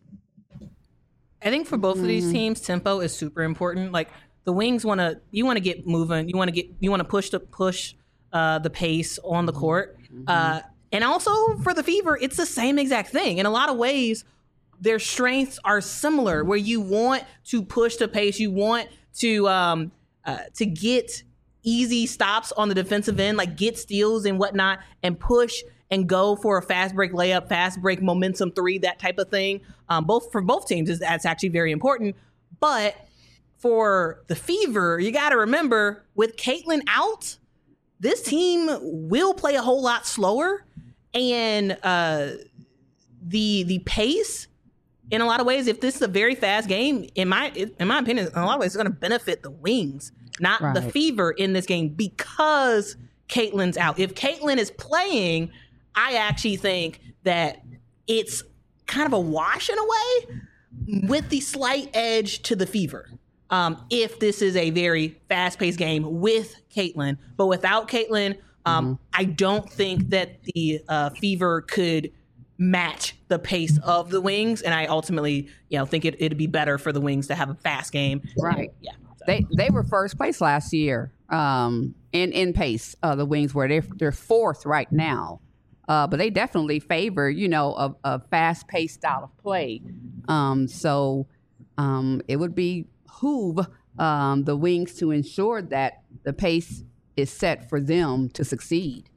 I think for both mm. of these teams, tempo is super important. Like. The Wings want to, you want to get moving. You want to get, you want to push the push uh, the pace on the court. Mm-hmm. Uh, and also for the Fever, it's the same exact thing. In a lot of ways, their strengths are similar where you want to push the pace. You want to, um, uh, to get easy stops on the defensive end, like get steals and whatnot and push and go for a fast break layup, fast break momentum three, that type of thing. Um, both for both teams, that's actually very important. But for the Fever, you got to remember, with Caitlin out, this team will play a whole lot slower, and uh, the the pace, in a lot of ways, if this is a very fast game, in my in my opinion, in a lot of ways, it's going to benefit the Wings, not right. the Fever in this game because Caitlin's out. If Caitlin is playing, I actually think that it's kind of a wash in a way, with the slight edge to the Fever. Um, if this is a very fast-paced game with Caitlin, but without Caitlin, um, mm-hmm. I don't think that the uh, Fever could match the pace of the Wings, and I ultimately, you know, think it, it'd be better for the Wings to have a fast game. Right? Yeah. So. They they were first place last year um, in in pace. Uh, the Wings were they're, they're fourth right now, uh, but they definitely favor you know a, a fast-paced style of play. Um, so um, it would be. Behoove um, the Wings to ensure that the pace is set for them to succeed.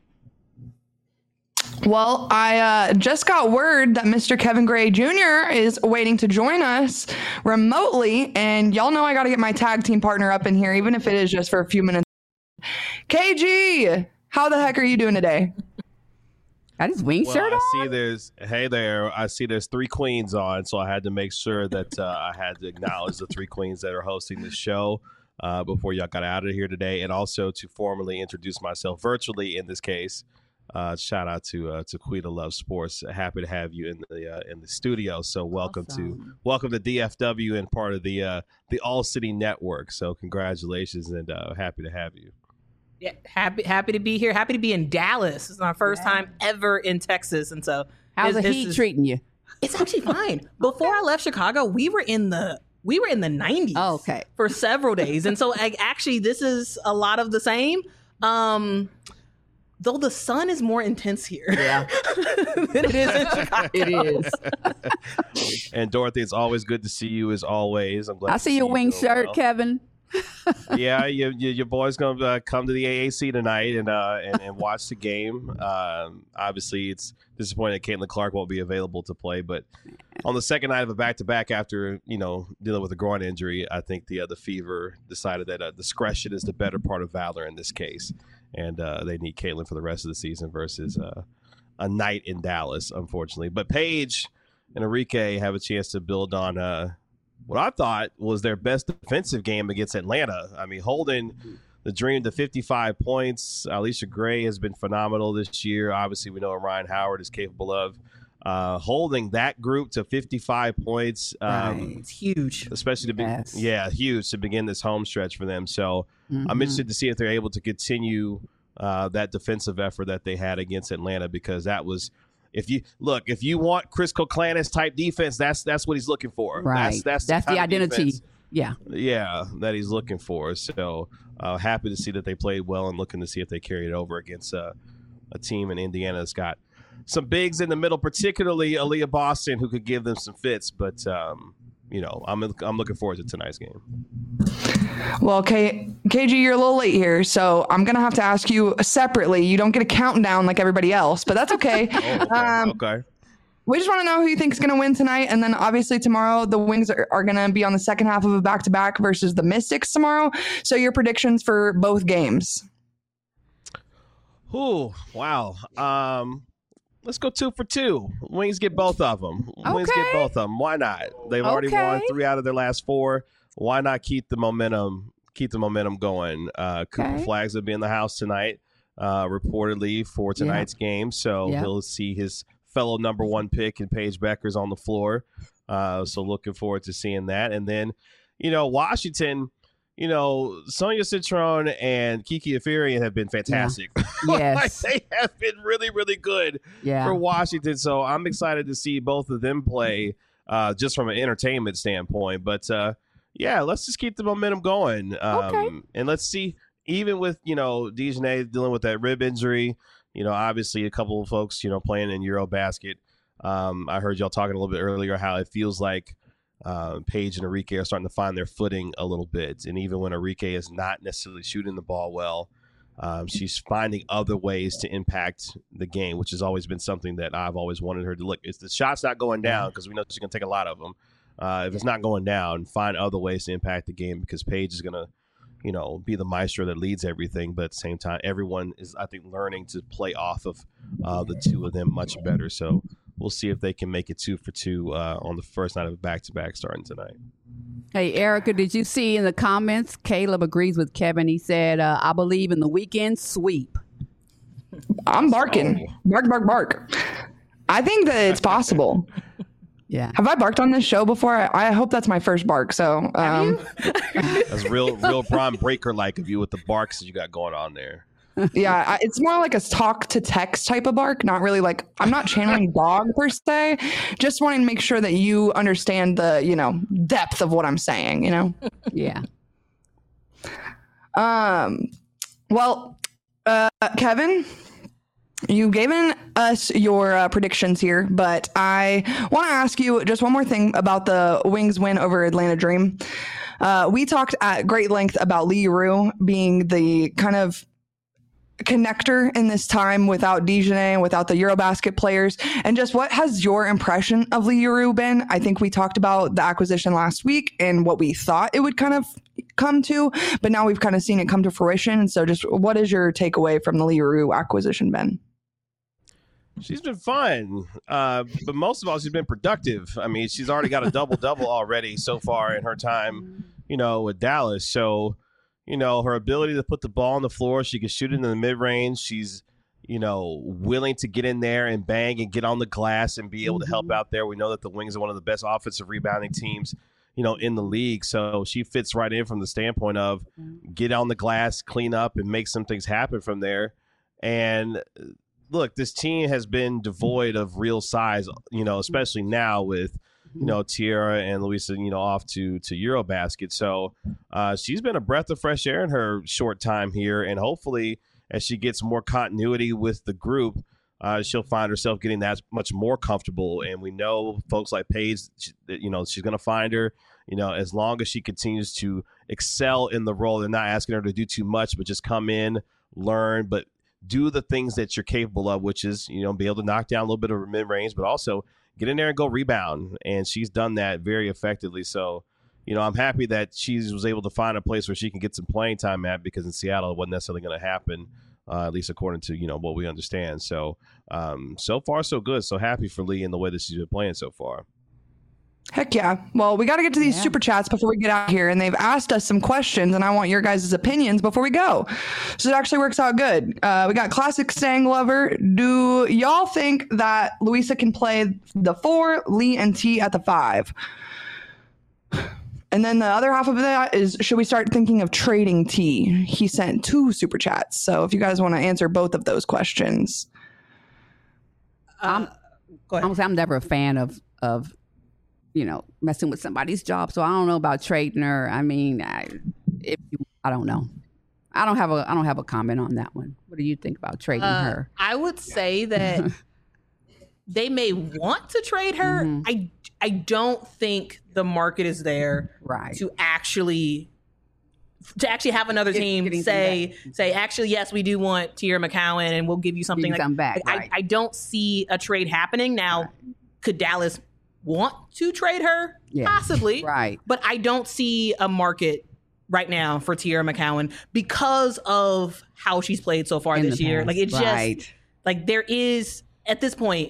Well, I uh, just got word that Mister Kevin Gray Junior is waiting to join us remotely, and y'all know I got to get my tag team partner up in here, even if it is just for a few minutes. K G, how the heck are you doing today? Got his wing well, shirt I on? see there's, hey there, I see there's three queens on, so I had to make sure that uh, I had to acknowledge the three queens that are hosting the show uh, before y'all got out of here today, and also to formally introduce myself virtually in this case. Uh, shout out to uh, to Quita Love Sports. Happy to have you in the uh, in the studio. So welcome awesome. to welcome to D F W and part of the uh, the All City Network. So congratulations and uh, happy to have you. Yeah, happy happy to be here. Happy to be in Dallas. It's my first yeah. time ever in Texas, and so how's the heat is, treating you? It's actually fine. Before I left Chicago, we were in the we were in the nineties. Oh, okay, for several days, and so I, actually this is a lot of the same. Um, though the sun is more intense here, yeah, than it is in Chicago. It is. And Dorothy, it's always good to see you as always. I'm glad. I see your wing shirt, well. Kevin. yeah, you, you, your boy's going to uh, come to the A A C tonight and uh, and, and watch the game. Um, obviously, it's disappointing that Caitlin Clark won't be available to play, but on the second night of a back-to-back after, you know, dealing with a groin injury, I think the uh, the Fever decided that uh, discretion is the better part of valor in this case, and uh, they need Caitlin for the rest of the season versus uh, a night in Dallas, unfortunately. But Paige and Arike have a chance to build on uh, what I thought was their best defensive game against Atlanta. I mean, holding the Dream to fifty-five points. Alicia Gray has been phenomenal this year. Obviously, we know what Ryan Howard is capable of. uh, holding that group to fifty-five points. Um, Right. It's huge. Especially to be, Yes. yeah, huge to begin this home stretch for them. So Mhm. I'm interested to see if they're able to continue uh, that defensive effort that they had against Atlanta, because that was, if you look, if you want Chris Koklanis type defense, that's that's what he's looking for. Right. That's that's, That's the kind of identity. defense, Yeah. yeah, that he's looking for. So uh, happy to see that they played well, and looking to see if they carry it over against uh, a team in Indiana that's got some bigs in the middle, particularly Aaliyah Boston, who could give them some fits. But um, you know, I'm I'm looking forward to tonight's game. Well, K- KG, you're a little late here, so I'm going to have to ask you separately. You don't get a countdown like everybody else, but that's okay. Oh, okay. Um, okay. We just want to know who you think is going to win tonight. And then obviously tomorrow, the Wings are, are going to be on the second half of a back-to-back versus the Mystics tomorrow. So your predictions for both games. Ooh, wow. Um, let's go two for two. Wings get both of them. Wings Okay. get both of them. Why not? They've already won Okay. three out of their last four. Why not keep the momentum? Keep the momentum going. Uh, Cooper Okay. Flags will be in the house tonight, uh, reportedly for tonight's game. So Yep. he'll see his fellow number one pick and Paige Beckers on the floor. Uh, so looking forward to seeing that. And then, you know, Washington. You know, Sonia Citron and Kiki Afirian have been fantastic. Yes. Like, they have been really, really good Yeah. for Washington. So I'm excited to see both of them play uh, just from an entertainment standpoint. But, uh, yeah, let's just keep the momentum going. Um, Okay. And let's see, even with, you know, Dejanay dealing with that rib injury, you know, obviously a couple of folks, you know, playing in Eurobasket. Um, I heard y'all talking a little bit earlier how it feels like Uh, Paige and Arike are starting to find their footing a little bit. And even when Arike is not necessarily shooting the ball well, um, she's finding other ways to impact the game, which has always been something that I've always wanted her to look. If the shot's not going down, because we know she's going to take a lot of them, uh, if it's not going down, find other ways to impact the game, because Paige is going to, you know, be the maestro that leads everything. But at the same time, everyone is, I think, learning to play off of uh, the two of them much better. So we'll see if they can make it two for two uh, on the first night of a back-to-back starting tonight. Hey, Erica, did you see in the comments, Caleb agrees with Kevin. He said, uh, I believe in the weekend sweep. I'm barking. Bark, bark, bark. I think that it's possible. Yeah. Have I barked on this show before? I, I hope that's my first bark. So, um, That's real, real Bron Breaker-like of you with the barks that you got going on there. yeah, I, it's more like a talk to text type of bark. Not really like, I'm not channeling dog per se. Just wanting to make sure that you understand the, you know, depth of what I'm saying, you know? Yeah. Um, well, uh, Kevin, you've given us your uh, predictions here, but I want to ask you just one more thing about the Wings win over Atlanta Dream. Uh, we talked at great length about Lee Rue being the kind of connector in this time without Dejanay and without the Eurobasket players, and just what has your impression of Lee Rue been? I think we talked about the acquisition last week and what we thought it would kind of come to, but now we've kind of seen it come to fruition. And so just what is your takeaway from the Lee Rue acquisition, Ben? She's been fun, uh, but most of all, she's been productive. I mean, she's already got a double-double already so far in her time, you know, with Dallas. So, you know, her ability to put the ball on the floor, she can shoot it in the mid-range. She's, you know, willing to get in there and bang and get on the glass and be able to help out there. We know that the Wings are one of the best offensive rebounding teams, you know, in the league. So she fits right in from the standpoint of get on the glass, clean up, and make some things happen from there. And look, this team has been devoid of real size, you know, especially now with, you know, Tierra and Luisa, you know, off to to Eurobasket. So uh, she's been a breath of fresh air in her short time here. And hopefully as she gets more continuity with the group, uh, she'll find herself getting that much more comfortable. And we know folks like Paige, you know, she's going to find her, you know, as long as she continues to excel in the role. They're not asking her to do too much, but just come in, learn, but do the things that you're capable of, which is, you know, be able to knock down a little bit of mid-range, but also get in there and go rebound. And she's done that very effectively. So, you know, I'm happy that she was able to find a place where she can get some playing time at, because in Seattle it wasn't necessarily going to happen, uh, at least according to, you know, what we understand. So, um, so far so good. So happy for Lee in the way that she's been playing so far. Heck yeah. Well, we got to get to these Yeah. super chats before we get out here. And they've asked us some questions, and I want your guys' opinions before we go. So it actually works out good. Uh, we got Classic Stang Lover. do y'all think that Louisa can play the four, Lee and T at the five? And then the other half of that is, should we start thinking of trading T? He sent two super chats. So if you guys want to answer both of those questions. Uh, go ahead. I'm, I'm never a fan of, of, you know, messing with somebody's job. So I don't know about trading her. I mean, I, if you, I don't know. I don't have a, I don't have a comment on that one. What do you think about trading Uh, her? I would say that they may want to trade her. Mhm. I I don't think the market is there Right. to actually to actually have another Get- team getting say say actually yes, we do want Tierra McCowan and we'll give you something. You Like, come back. like, right. I, I don't see a trade happening now. Could Dallas want to trade her? Yeah. Possibly, right. but I don't see a market right now for Tierra McCowan because of how she's played so far In this the year. past. Like it just Right. like there is at this point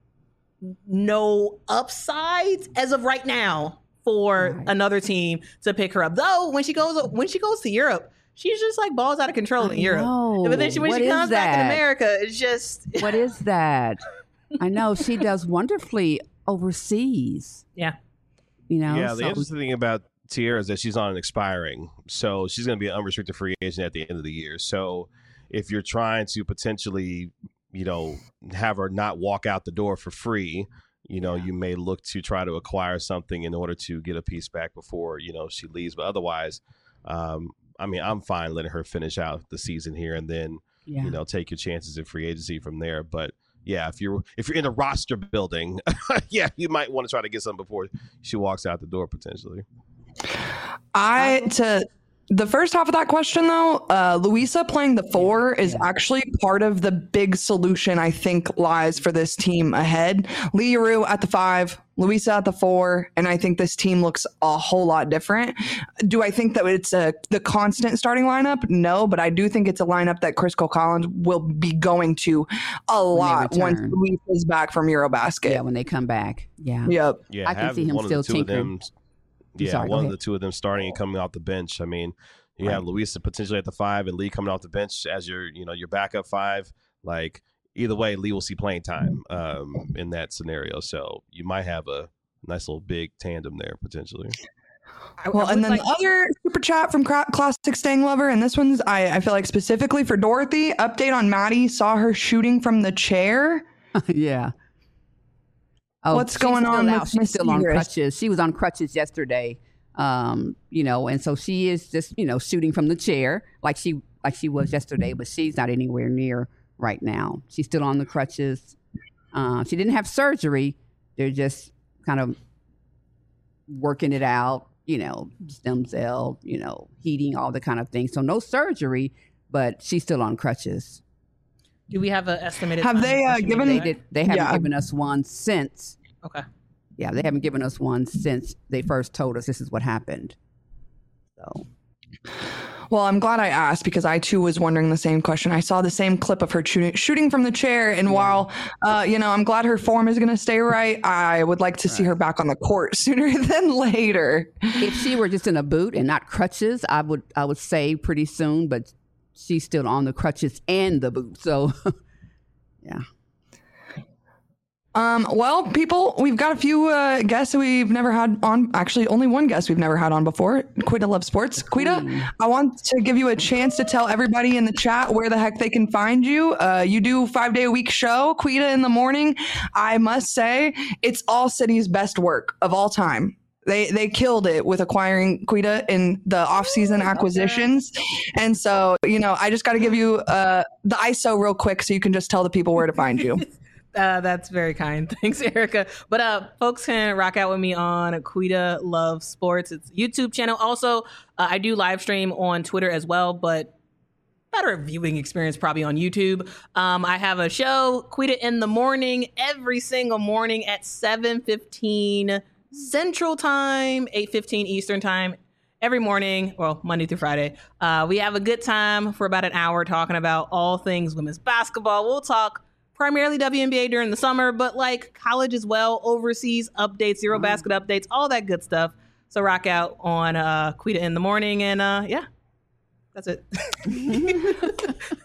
no upside as of right now for Right. another team to pick her up. Though when she goes when she goes to Europe, she's just like balls out of control in I Europe. know. But then she, when What she is comes back in that? America, it's just What is that? I know she does wonderfully overseas. yeah. You know, Yeah, the so- interesting thing about Tierra is that she's on an expiring, so she's going to be an unrestricted free agent at the end of the year. So if you're trying to potentially, you know, have her not walk out the door for free, you know, Yeah. you may look to try to acquire something in order to get a piece back before, you know, she leaves. But otherwise, um, I mean, I'm fine letting her finish out the season here and then, yeah. you know, take your chances in free agency from there. But yeah, if you're if you're in a roster building, yeah, you might want to try to get something before she walks out the door potentially. I to the first half of that question though, uh, Louisa playing the four is Yeah. actually part of the big solution I think lies for this team ahead. Lee Rue at the five, Louisa at the four, and I think this team looks a whole lot different. Do I think that it's a the constant starting lineup? No, but I do think it's a lineup that Chris Collins will be going to a lot once return. Louisa's back from Eurobasket. Yeah, when they come back. Yeah. Yep. Yeah, I can have see him one still of the two tinkering. of them. Yeah, sorry, go one of ahead. the two of them starting and coming off the bench. I mean, you have Louisa potentially at the five and Lee coming off the bench as your, you know, your backup five. Like either way, Lee will see playing time um, in that scenario. So you might have a nice little big tandem there potentially. I- Well, I and would then like- the other super chat from Cra- Classic Staying Lover, and this one's, I, I feel like specifically for Dorothy, update on Maddie, saw her shooting from the chair. yeah. Oh, What's she's going still on out. with She's Miss still on Segrist? crutches. She was on crutches yesterday. Um, you know, and so she is just, you know, shooting from the chair like she like she was yesterday, but she's not anywhere near right now. She's still on the crutches. Uh, she didn't have surgery. They're just kind of working it out, you know, stem cell, you know, heating, all the kind of things. So no surgery, but she's still on crutches. do we have an estimated? Have time they, when uh, she may given- be They back? did. They haven't Yeah. given us one since. Okay. Yeah, they haven't given us one since they first told us this is what happened. So Well, I'm glad I asked because I too was wondering the same question. I saw the same clip of her shooting, shooting from the chair, and while uh, you know I'm glad her form is going to stay right, I would like to see her back on the court sooner than later. if she were just in a boot and not crutches, I would I would say pretty soon. But she's still on the crutches and the boot. So yeah, Um, well, people, we've got a few uh, guests that we've never had on. Actually, only one guest we've never had on before. Quita Loves Sports. Quita, I want to give you a chance to tell everybody in the chat where the heck they can find you. Uh, you do five day a week show, Quita in the morning. I must say, it's All City's best work of all time. They they killed it with acquiring Quita in the off-season acquisitions. And so, you know, I just got to give you uh, the I S O real quick so you can just tell the people where to find you. Uh, that's very kind. Thanks, Erica. But uh, folks can rock out with me on Quita Love Sports. It's a YouTube channel. Also, uh, I do live stream on Twitter as well, but better viewing experience probably on YouTube. Um, I have a show, Quita in the Morning, every single morning at seven fifteen Central Time, eight fifteen Eastern Time. Every morning, well, Monday through Friday. Uh, we have a good time for about an hour talking about all things women's basketball. We'll talk primarily W N B A during the summer, but like college as well, overseas updates, Zero Basket updates, all that good stuff. So rock out on uh, Quita in the Morning, and uh, yeah, that's it.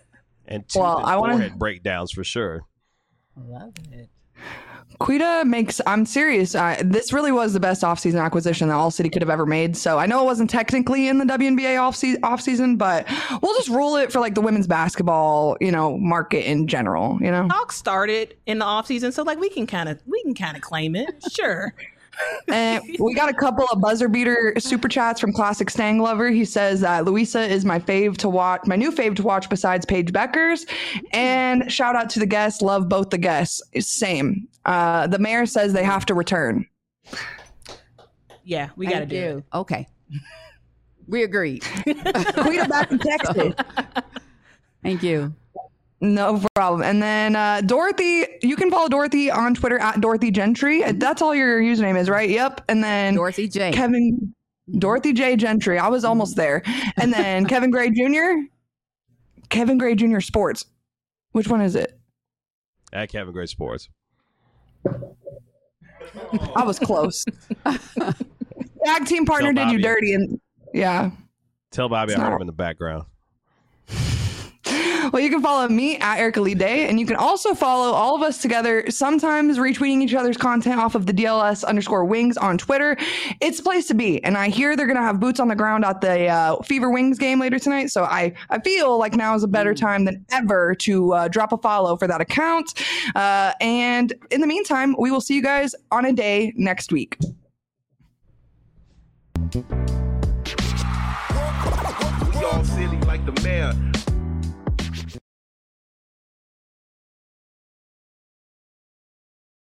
and two Well, I wanna- forehead breakdowns for sure. Love it. Quita makes, I'm serious, I, this really was the best offseason acquisition that All City could have ever made. So I know it wasn't technically in the W N B A offseason, offseason, but we'll just rule it for like the women's basketball, you know, market in general, you know? Talk started in the offseason, so like we can kind of we can kind of claim it. Sure. And we got a couple of buzzer beater super chats from Classic Stang Lover. He says that Luisa is my fave to watch, my new fave to watch besides Paige Beckers. And shout out to the guests. Love both the guests. Same. Uh, the mayor says they have to return. Yeah, we got to Thank do you. it. Okay. We agreed. Quita back in Texas. Thank you. No problem. And then uh, Dorothy, you can follow Dorothy on Twitter at Dorothy Gentry. That's all your username is, right? Yep. And then Dorothy J. Kevin, Dorothy J Gentry. I was almost there. And then Kevin Gray Junior Kevin Gray Junior Sports. Which one is it? At Kevin Gray Sports. I was close. Tag team partner Tell did you Bobby. dirty. And yeah. Tell Bobby It's I heard not- him in the background. Well, you can follow me at Erica Lee Day, and you can also follow all of us together, sometimes retweeting each other's content off of the D L S underscore wings on Twitter. It's the place to be. And I hear they're going to have boots on the ground at the uh, Fever Wings game later tonight. So I, I feel like now is a better time than ever to uh, drop a follow for that account. Uh, and in the meantime, we will see you guys on a day next week. We all silly like the mayor.